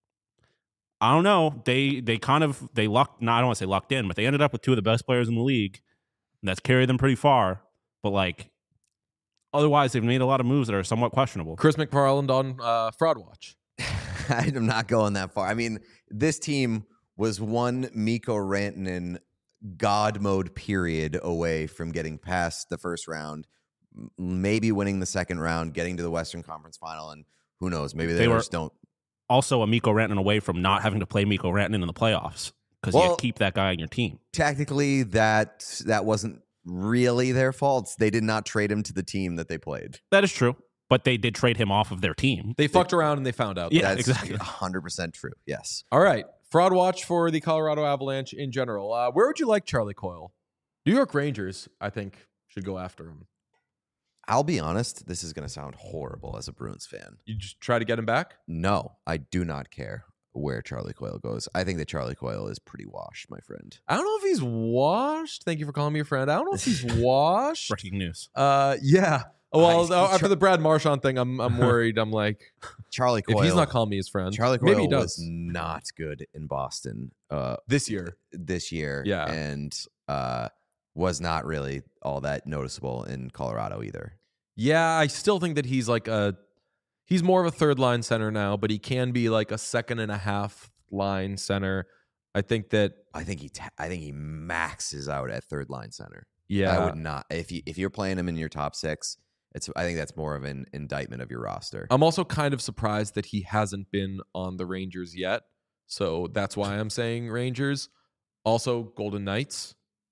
Speaker 3: I don't know. They lucked. No, I don't want to say lucked in, but they ended up with two of the best players in the league. And that's carried them pretty far. But like, otherwise, they've made a lot of moves that are somewhat questionable.
Speaker 1: Chris McFarland on Fraud Watch.
Speaker 2: I'm not going that far. I mean, this team was one Mikko Rantanen God mode period away from getting past the first round, maybe winning the second round, getting to the Western Conference Final, and who knows? Maybe they just don't.
Speaker 3: Also, a Mikko Rantanen away from not having to play Mikko Rantanen in the playoffs because you keep that guy on your team.
Speaker 2: Technically, that wasn't really their fault. They did not trade him to the team that they played.
Speaker 3: That is true, but they did trade him off of their team.
Speaker 1: They fucked around and they found out.
Speaker 3: Yeah,
Speaker 2: That's
Speaker 3: exactly.
Speaker 2: 100% true. Yes.
Speaker 1: All right. Fraud Watch for the Colorado Avalanche in general. Where would you like Charlie Coyle? New York Rangers, I think, should go after him.
Speaker 2: I'll be honest. This is going to sound horrible as a Bruins fan.
Speaker 1: You just try to get him back?
Speaker 2: No, I do not care where Charlie Coyle goes. I think that Charlie Coyle is pretty washed, my friend.
Speaker 1: I don't know if he's washed. Thank you for calling me a friend. I don't know if he's washed.
Speaker 3: Breaking news.
Speaker 1: Yeah. Well, after the Brad Marchand thing, I'm worried. I'm like,
Speaker 2: Charlie Coyle.
Speaker 1: if he's not calling me his friend,
Speaker 2: Charlie Coyle
Speaker 1: maybe he does.
Speaker 2: was not good in Boston
Speaker 1: This year.
Speaker 2: Yeah. And was not really all that noticeable in Colorado either.
Speaker 1: Yeah, I still think that he's like he's more of a third line center now, but he can be like a second and a half line center. I think he maxes out at third line center. Yeah.
Speaker 2: I would not if you're playing him in your top six. I think that's more of an indictment of your roster.
Speaker 1: I'm also kind of surprised that he hasn't been on the Rangers yet. So that's why I'm saying Rangers. Also, Golden Knights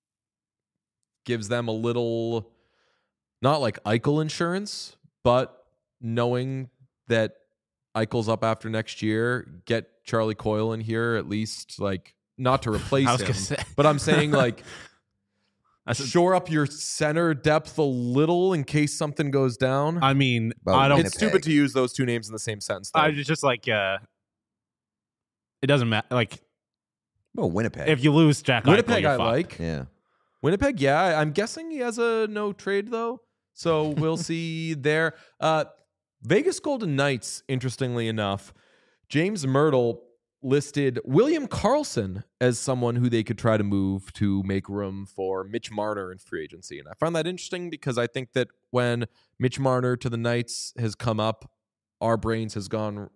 Speaker 1: gives them a little, not like Eichel insurance, but knowing that Eichel's up after next year, get Charlie Coyle in here at least, like, not to replace him. But I'm saying, like, shore up your center depth a little in case something goes down.
Speaker 3: I mean,
Speaker 2: Well,
Speaker 3: I don't.
Speaker 1: It's stupid to use those two names in the same sentence, though.
Speaker 3: I just like it doesn't matter. Like,
Speaker 2: Well, Winnipeg.
Speaker 3: if you lose Jack
Speaker 1: Winnipeg
Speaker 3: Eichel, you're
Speaker 1: I
Speaker 3: fucked.
Speaker 1: like.
Speaker 2: Yeah.
Speaker 1: Winnipeg, yeah. I'm guessing he has a no trade, though. So we'll see there. Vegas Golden Knights, interestingly enough, James Myrtle listed William Karlsson as someone who they could try to move to make room for Mitch Marner in free agency. And I find that interesting because I think that when Mitch Marner to the Knights has come up, our brains have gone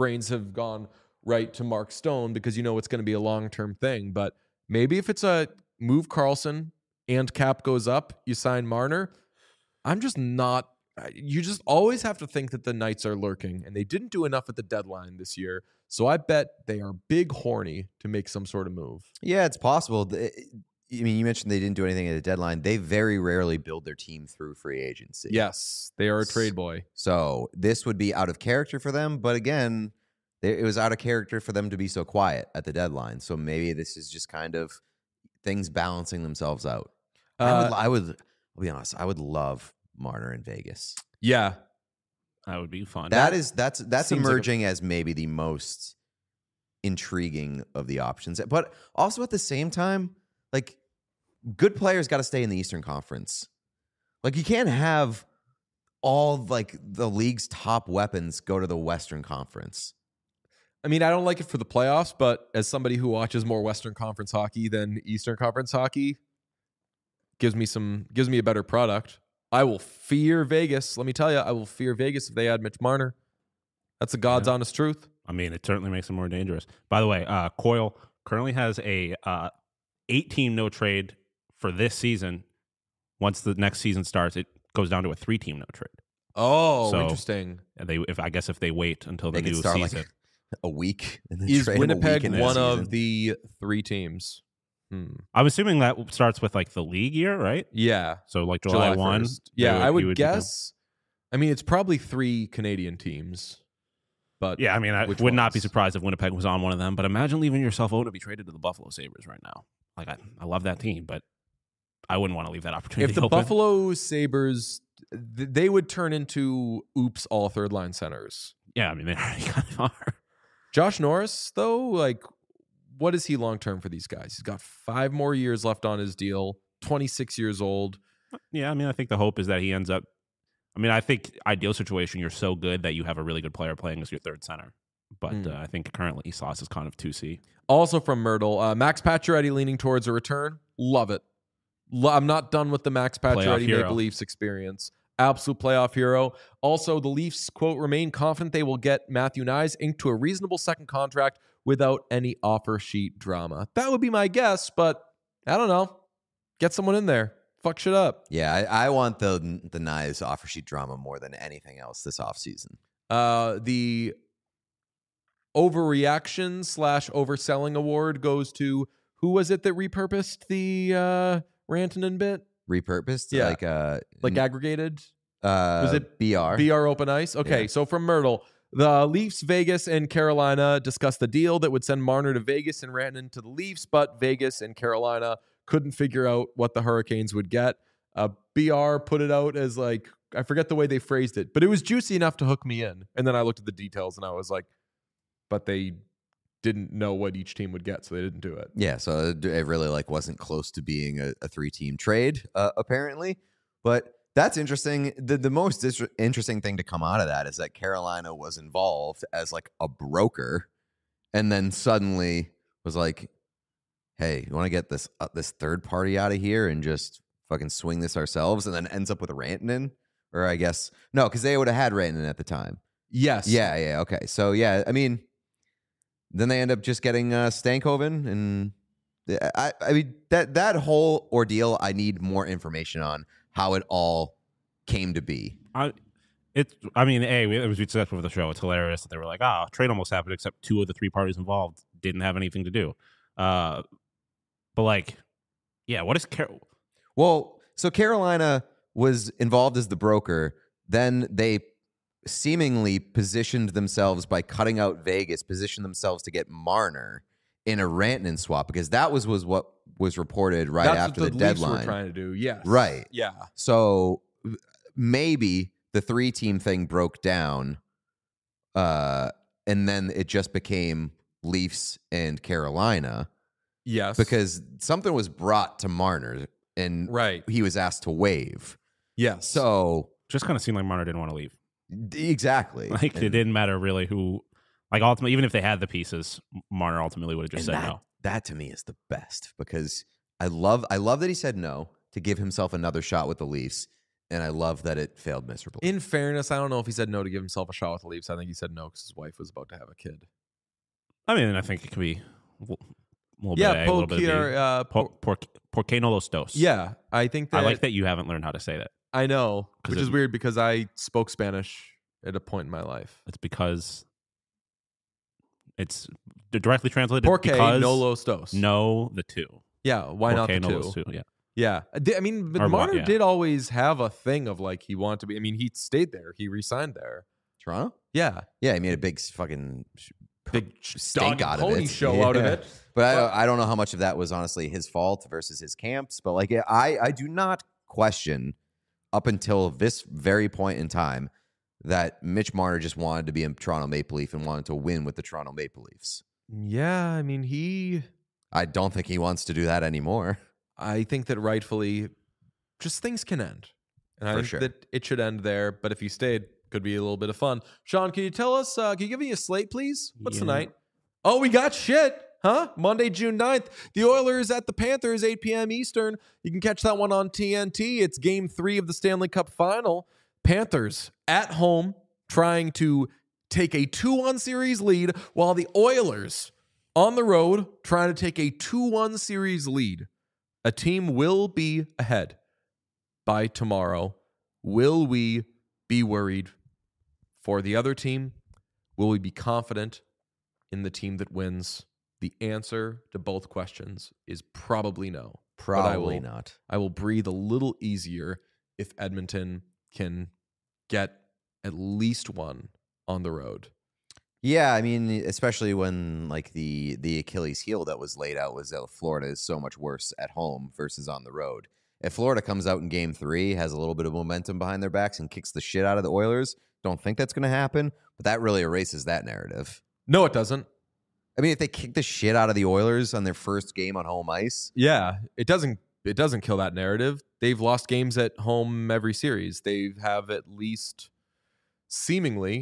Speaker 1: right to Mark Stone because it's going to be a long-term thing. But maybe if it's a move Karlsson and cap goes up, you sign Marner. I'm just not. You just always have to think that the Knights are lurking, and they didn't do enough at the deadline this year. So I bet they are big horny to make some sort of move.
Speaker 2: Yeah, it's possible. I mean, you mentioned they didn't do anything at the deadline. They very rarely build their team through free agency.
Speaker 1: Yes, they are a trade boy.
Speaker 2: So this would be out of character for them. But again, it was out of character for them to be so quiet at the deadline. So maybe this is just kind of things balancing themselves out. I would I'll be honest, I would love Marner in Vegas.
Speaker 1: Yeah.
Speaker 3: That would be fun.
Speaker 2: That's
Speaker 1: seems
Speaker 2: emerging as maybe the most intriguing of the options. But also at the same time, like, good players got to stay in the Eastern Conference. Like, you can't have all like the league's top weapons go to the Western Conference.
Speaker 1: I mean, I don't like it for the playoffs, but as somebody who watches more Western Conference hockey than Eastern Conference hockey, gives me a better product. I will fear Vegas. Let me tell you, I will fear Vegas if they add Mitch Marner. That's the God's honest truth.
Speaker 3: I mean, it certainly makes it more dangerous. By the way, Coyle currently has a 8-team no trade for this season. Once the next season starts, it goes down to a 3-team no trade.
Speaker 1: Oh,
Speaker 3: So,
Speaker 1: interesting.
Speaker 3: If they wait until the
Speaker 2: They could
Speaker 3: new
Speaker 2: start
Speaker 3: season.
Speaker 2: like a week. And then
Speaker 1: Is
Speaker 2: trade him a week
Speaker 1: Winnipeg
Speaker 2: into the
Speaker 1: one
Speaker 2: season.
Speaker 1: of the 3 teams?
Speaker 3: I'm assuming that starts with like the league year, right?
Speaker 1: Yeah.
Speaker 3: So like July 1.
Speaker 1: 1st. Yeah, I
Speaker 3: you
Speaker 1: would
Speaker 3: become-
Speaker 1: guess. I mean, it's probably 3 Canadian teams. But
Speaker 3: Yeah, I mean, I
Speaker 1: which
Speaker 3: would not be
Speaker 1: ones?
Speaker 3: surprised if Winnipeg was on one of them. But imagine leaving yourself open to be traded to the Buffalo Sabres right now. Like, I love that team, but I wouldn't want to leave that opportunity
Speaker 1: If the
Speaker 3: open.
Speaker 1: Buffalo Sabres, they would turn into all third line centers.
Speaker 3: Yeah, I mean, they already kind of are.
Speaker 1: Josh Norris, though, like, what is he long term for these guys? He's got 5 more years left on his deal, 26 years old.
Speaker 3: Yeah, I mean, I think the hope is that he ends up. I mean, I think ideal situation, you're so good that you have a really good player playing as your third center. But I think currently Sauce is kind of 2C.
Speaker 1: Also from Myrtle, Max Pacioretty leaning towards a return. Love it. I'm not done with the Max Pacioretty
Speaker 3: hero.
Speaker 1: Maple Leafs experience. Absolute playoff hero. Also, the Leafs, quote, remain confident they will get Matthew Nyes inked to a reasonable second contract without any offer sheet drama. That would be my guess, but I don't know. Get someone in there. Fuck shit up.
Speaker 2: Yeah, I want the Nyes offer sheet drama more than anything else this offseason.
Speaker 1: The overreaction / overselling award goes to, who was it that repurposed the Rantanen bit?
Speaker 2: Repurposed?
Speaker 1: Yeah. Like aggregated?
Speaker 2: Was
Speaker 1: it
Speaker 2: BR?
Speaker 1: BR Open Ice? Okay,
Speaker 2: Yeah.
Speaker 1: so from Myrtle, the Leafs, Vegas, and Carolina discussed the deal that would send Marner to Vegas and Rantanen to the Leafs, but Vegas and Carolina couldn't figure out what the Hurricanes would get. BR put it out as like, I forget the way they phrased it, but it was juicy enough to hook me in. And then I looked at the details and I was like, but they didn't know what each team would get, so they didn't do it.
Speaker 2: Yeah, so it really like wasn't close to being a 3-team trade, apparently. But that's interesting. The most interesting thing to come out of that is that Carolina was involved as like a broker, and then suddenly was like, "Hey, you want to get this third party out of here and just fucking swing this ourselves?" And then ends up with Rantanen, or I guess no, because they would have had Rantanen at the time.
Speaker 1: Yes.
Speaker 2: Yeah, okay. So yeah, I mean, then they end up just getting Stankoven, and I mean that whole ordeal. I need more information on how it all came to be.
Speaker 3: We said before the show, it's hilarious that they were like, trade almost happened, except 2 of the 3 parties involved didn't have anything to do. But like, yeah, what is
Speaker 2: Well, so Carolina was involved as the broker. Then they seemingly positioned themselves by cutting out Vegas, positioned themselves to get Marner in a Rantanen swap, because that was what was reported right
Speaker 1: That's
Speaker 2: after
Speaker 1: what
Speaker 2: the
Speaker 1: Leafs
Speaker 2: deadline.
Speaker 1: were trying to do. Yes.
Speaker 2: Right.
Speaker 1: Yeah.
Speaker 2: So maybe the 3-team thing broke down, and then it just became Leafs and Carolina,
Speaker 1: Yes.
Speaker 2: because something was brought to Marner and
Speaker 1: right.
Speaker 2: he was asked to waive.
Speaker 1: Yes.
Speaker 2: So
Speaker 3: just kind of seemed like Marner didn't want to leave.
Speaker 2: exactly.
Speaker 3: Like, it didn't matter really who. Like, ultimately, even if they had the pieces, Marner ultimately would have just said no.
Speaker 2: That to me is the best, because I love that he said no to give himself another shot with the Leafs, and I love that it failed miserably.
Speaker 1: In fairness, I don't know if he said no to give himself a shot with the Leafs. I think he said no because his wife was about to have a kid.
Speaker 3: I mean, I think it could be a little bit
Speaker 1: Yeah,
Speaker 3: A, a little bit of B. ¿Por qué no los dos?
Speaker 1: Yeah, I think that.
Speaker 3: I like that you haven't learned how to say that.
Speaker 1: I know,
Speaker 3: 'Cause
Speaker 1: which is weird because I spoke Spanish at a point in my life.
Speaker 3: It's because it's directly translated.
Speaker 1: Porque
Speaker 3: because
Speaker 1: no los dos.
Speaker 3: No, the 2.
Speaker 1: Yeah, why not the
Speaker 3: no
Speaker 1: two?
Speaker 3: los 2? Yeah.
Speaker 1: Yeah, I mean, but
Speaker 3: Or what,
Speaker 1: Marner
Speaker 3: yeah.
Speaker 1: did always have a thing of like he wanted to be. I mean, he stayed there. He re-signed there.
Speaker 2: Toronto?
Speaker 1: Yeah,
Speaker 2: Yeah, he made a big fucking
Speaker 1: big
Speaker 2: stink
Speaker 1: dog
Speaker 2: out
Speaker 1: and
Speaker 2: of
Speaker 1: pony
Speaker 2: it.
Speaker 1: show out of
Speaker 2: Yeah.
Speaker 1: it.
Speaker 2: But I don't know how much of that was honestly his fault versus his camps. But like, yeah, I do not question up until this very point in time that Mitch Marner just wanted to be a Toronto Maple Leaf and wanted to win with the Toronto Maple Leafs.
Speaker 1: Yeah, I mean,
Speaker 2: I don't think he wants to do that anymore.
Speaker 1: I think that rightfully, just things can end. And I
Speaker 2: For
Speaker 1: think
Speaker 2: sure.
Speaker 1: that it should end there. But if he stayed, could be a little bit of fun. Sean, can you tell us, can you give me a slate, please? What's the
Speaker 3: Yeah.
Speaker 1: night? Oh, we got shit. Huh? Monday, June 9th. The Oilers at the Panthers, 8 p.m. Eastern. You can catch that one on TNT. It's game 3 of the Stanley Cup final. Panthers at home trying to take a 2-1 series lead, while the Oilers on the road trying to take a 2-1 series lead. A team will be ahead by tomorrow. Will we be worried for the other team? Will we be confident in the team that wins? The answer to both questions is probably no.
Speaker 2: Probably not.
Speaker 1: I will breathe a little easier if Edmonton can get at least one on the road.
Speaker 2: Yeah, I mean, especially when like the Achilles heel that was laid out was that Florida is so much worse at home versus on the road. If Florida comes out in game 3, has a little bit of momentum behind their backs and kicks the shit out of the Oilers, don't think that's going to happen, but that really erases that narrative.
Speaker 1: No, it doesn't.
Speaker 2: I mean, if they kick the shit out of the Oilers on their first game on home ice,
Speaker 1: Yeah, it doesn't kill that narrative. They've lost games at home every series. They have at least seemingly,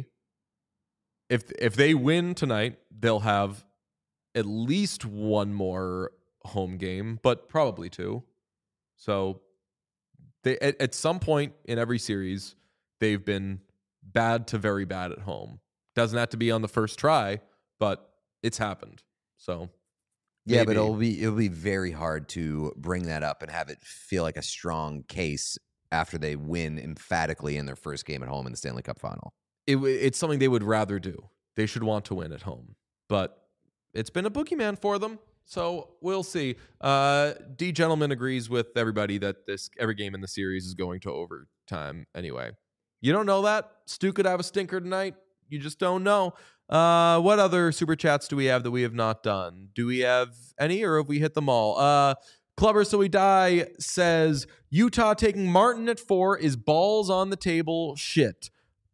Speaker 1: if they win tonight, they'll have at least one more home game, but probably 2. So they at some point in every series, they've been bad to very bad at home. Doesn't have to be on the first try, but it's happened. So
Speaker 2: yeah, but
Speaker 1: maybe.
Speaker 2: it'll be very hard to bring that up and have it feel like a strong case after they win emphatically in their first game at home in the Stanley Cup final.
Speaker 1: It's something they would rather do. They should want to win at home, but it's been a boogeyman for them. So we'll see. D Gentleman agrees with everybody that every game in the series is going to overtime anyway. You don't know that? Stu could have a stinker tonight. You just don't know. What other super chats do we have that we have not done? Do we have any, or have we hit them all? Clubber So We Die says, Utah taking Martin at 4 is balls on the table shit.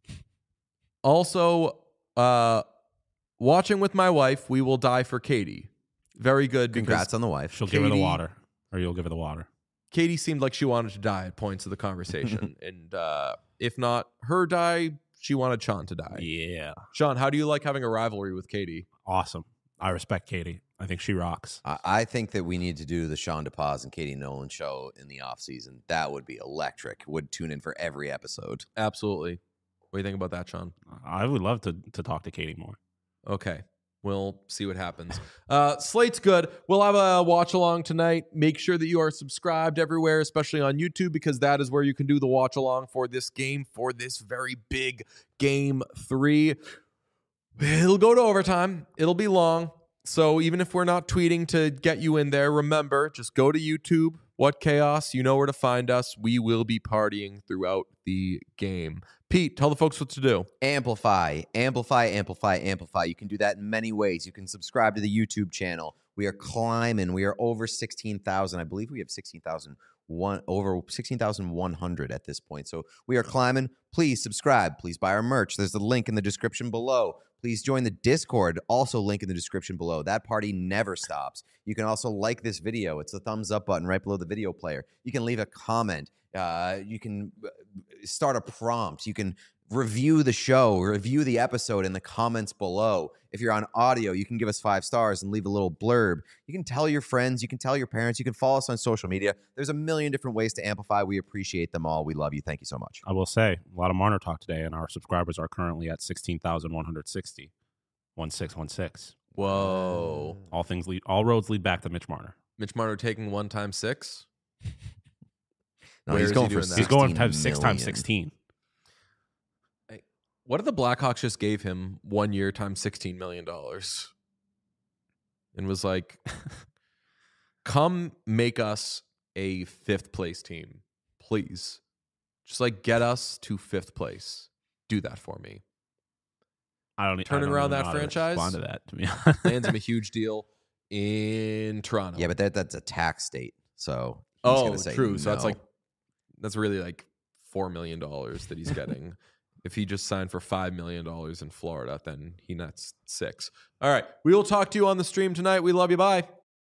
Speaker 1: Also, watching with my wife, we will die for Katie. Very good.
Speaker 2: Congrats on the wife.
Speaker 3: She'll give her the water, or you'll give her the water.
Speaker 1: Katie seemed like she wanted to die at points of the conversation. And if not her die, she wanted Sean to die.
Speaker 3: Yeah.
Speaker 1: Sean, how do you like having a rivalry with Katie?
Speaker 3: Awesome. I respect Katie. I think she rocks.
Speaker 2: I think that we need to do the Sean DePaz and Katie Nolan show in the offseason. That would be electric. Would tune in for every episode.
Speaker 1: Absolutely. What do you think about that, Sean?
Speaker 3: I would love to talk to Katie more.
Speaker 1: Okay. We'll see what happens. Slate's good. We'll have a watch along tonight. Make sure that you are subscribed everywhere, especially on YouTube, because that is where you can do the watch along for this game, for this very big game 3. It'll go to overtime. It'll be long. So even if we're not tweeting to get you in there, remember, just go to YouTube. What Chaos? You know where to find us. We will be partying throughout the game. Pete, tell the folks what to do.
Speaker 2: Amplify, amplify, amplify, amplify. You can do that in many ways. You can subscribe to the YouTube channel. We are climbing. We are over 16,000. I believe we have over 16,100 at this point. So we are climbing. Please subscribe. Please buy our merch. There's a link in the description below. Please join the Discord. Also link in the description below. That party never stops. You can also like this video. It's the thumbs up button right below the video player. You can leave a comment. You can start a prompt. You can review the show, review the episode in the comments below. If you're on audio, you can give us 5 stars and leave a little blurb. You can tell your friends. You can tell your parents. You can follow us on social media. There's a million different ways to amplify. We appreciate them all. We love you. Thank you so much.
Speaker 3: I will say, a lot of Marner talk today, and our subscribers are currently at 16,160. 1616.
Speaker 1: Whoa.
Speaker 3: All roads lead back to Mitch Marner.
Speaker 1: Mitch Marner taking 1 times 6.
Speaker 2: No,
Speaker 1: Where
Speaker 2: he's
Speaker 1: is
Speaker 2: going
Speaker 1: he
Speaker 2: for
Speaker 1: doing that?
Speaker 3: He's going
Speaker 2: 16
Speaker 3: 6 times
Speaker 2: million.
Speaker 3: 16.
Speaker 1: What if the Blackhawks just gave him 1 year times $16 million and was like, come make us a 5th place team, please. Just like get us to 5th place. Do that for me. Turning around that franchise?
Speaker 3: Respond to that, to be honest.
Speaker 1: Lands him a huge deal in Toronto.
Speaker 2: Yeah, but that's a tax state. So he's going to say
Speaker 1: true. So that's
Speaker 2: no.
Speaker 1: like That's really like $4 million that he's getting. If he just signed for $5 million in Florida, then he nets 6. All right. We will talk to you on the stream tonight. We love you. Bye.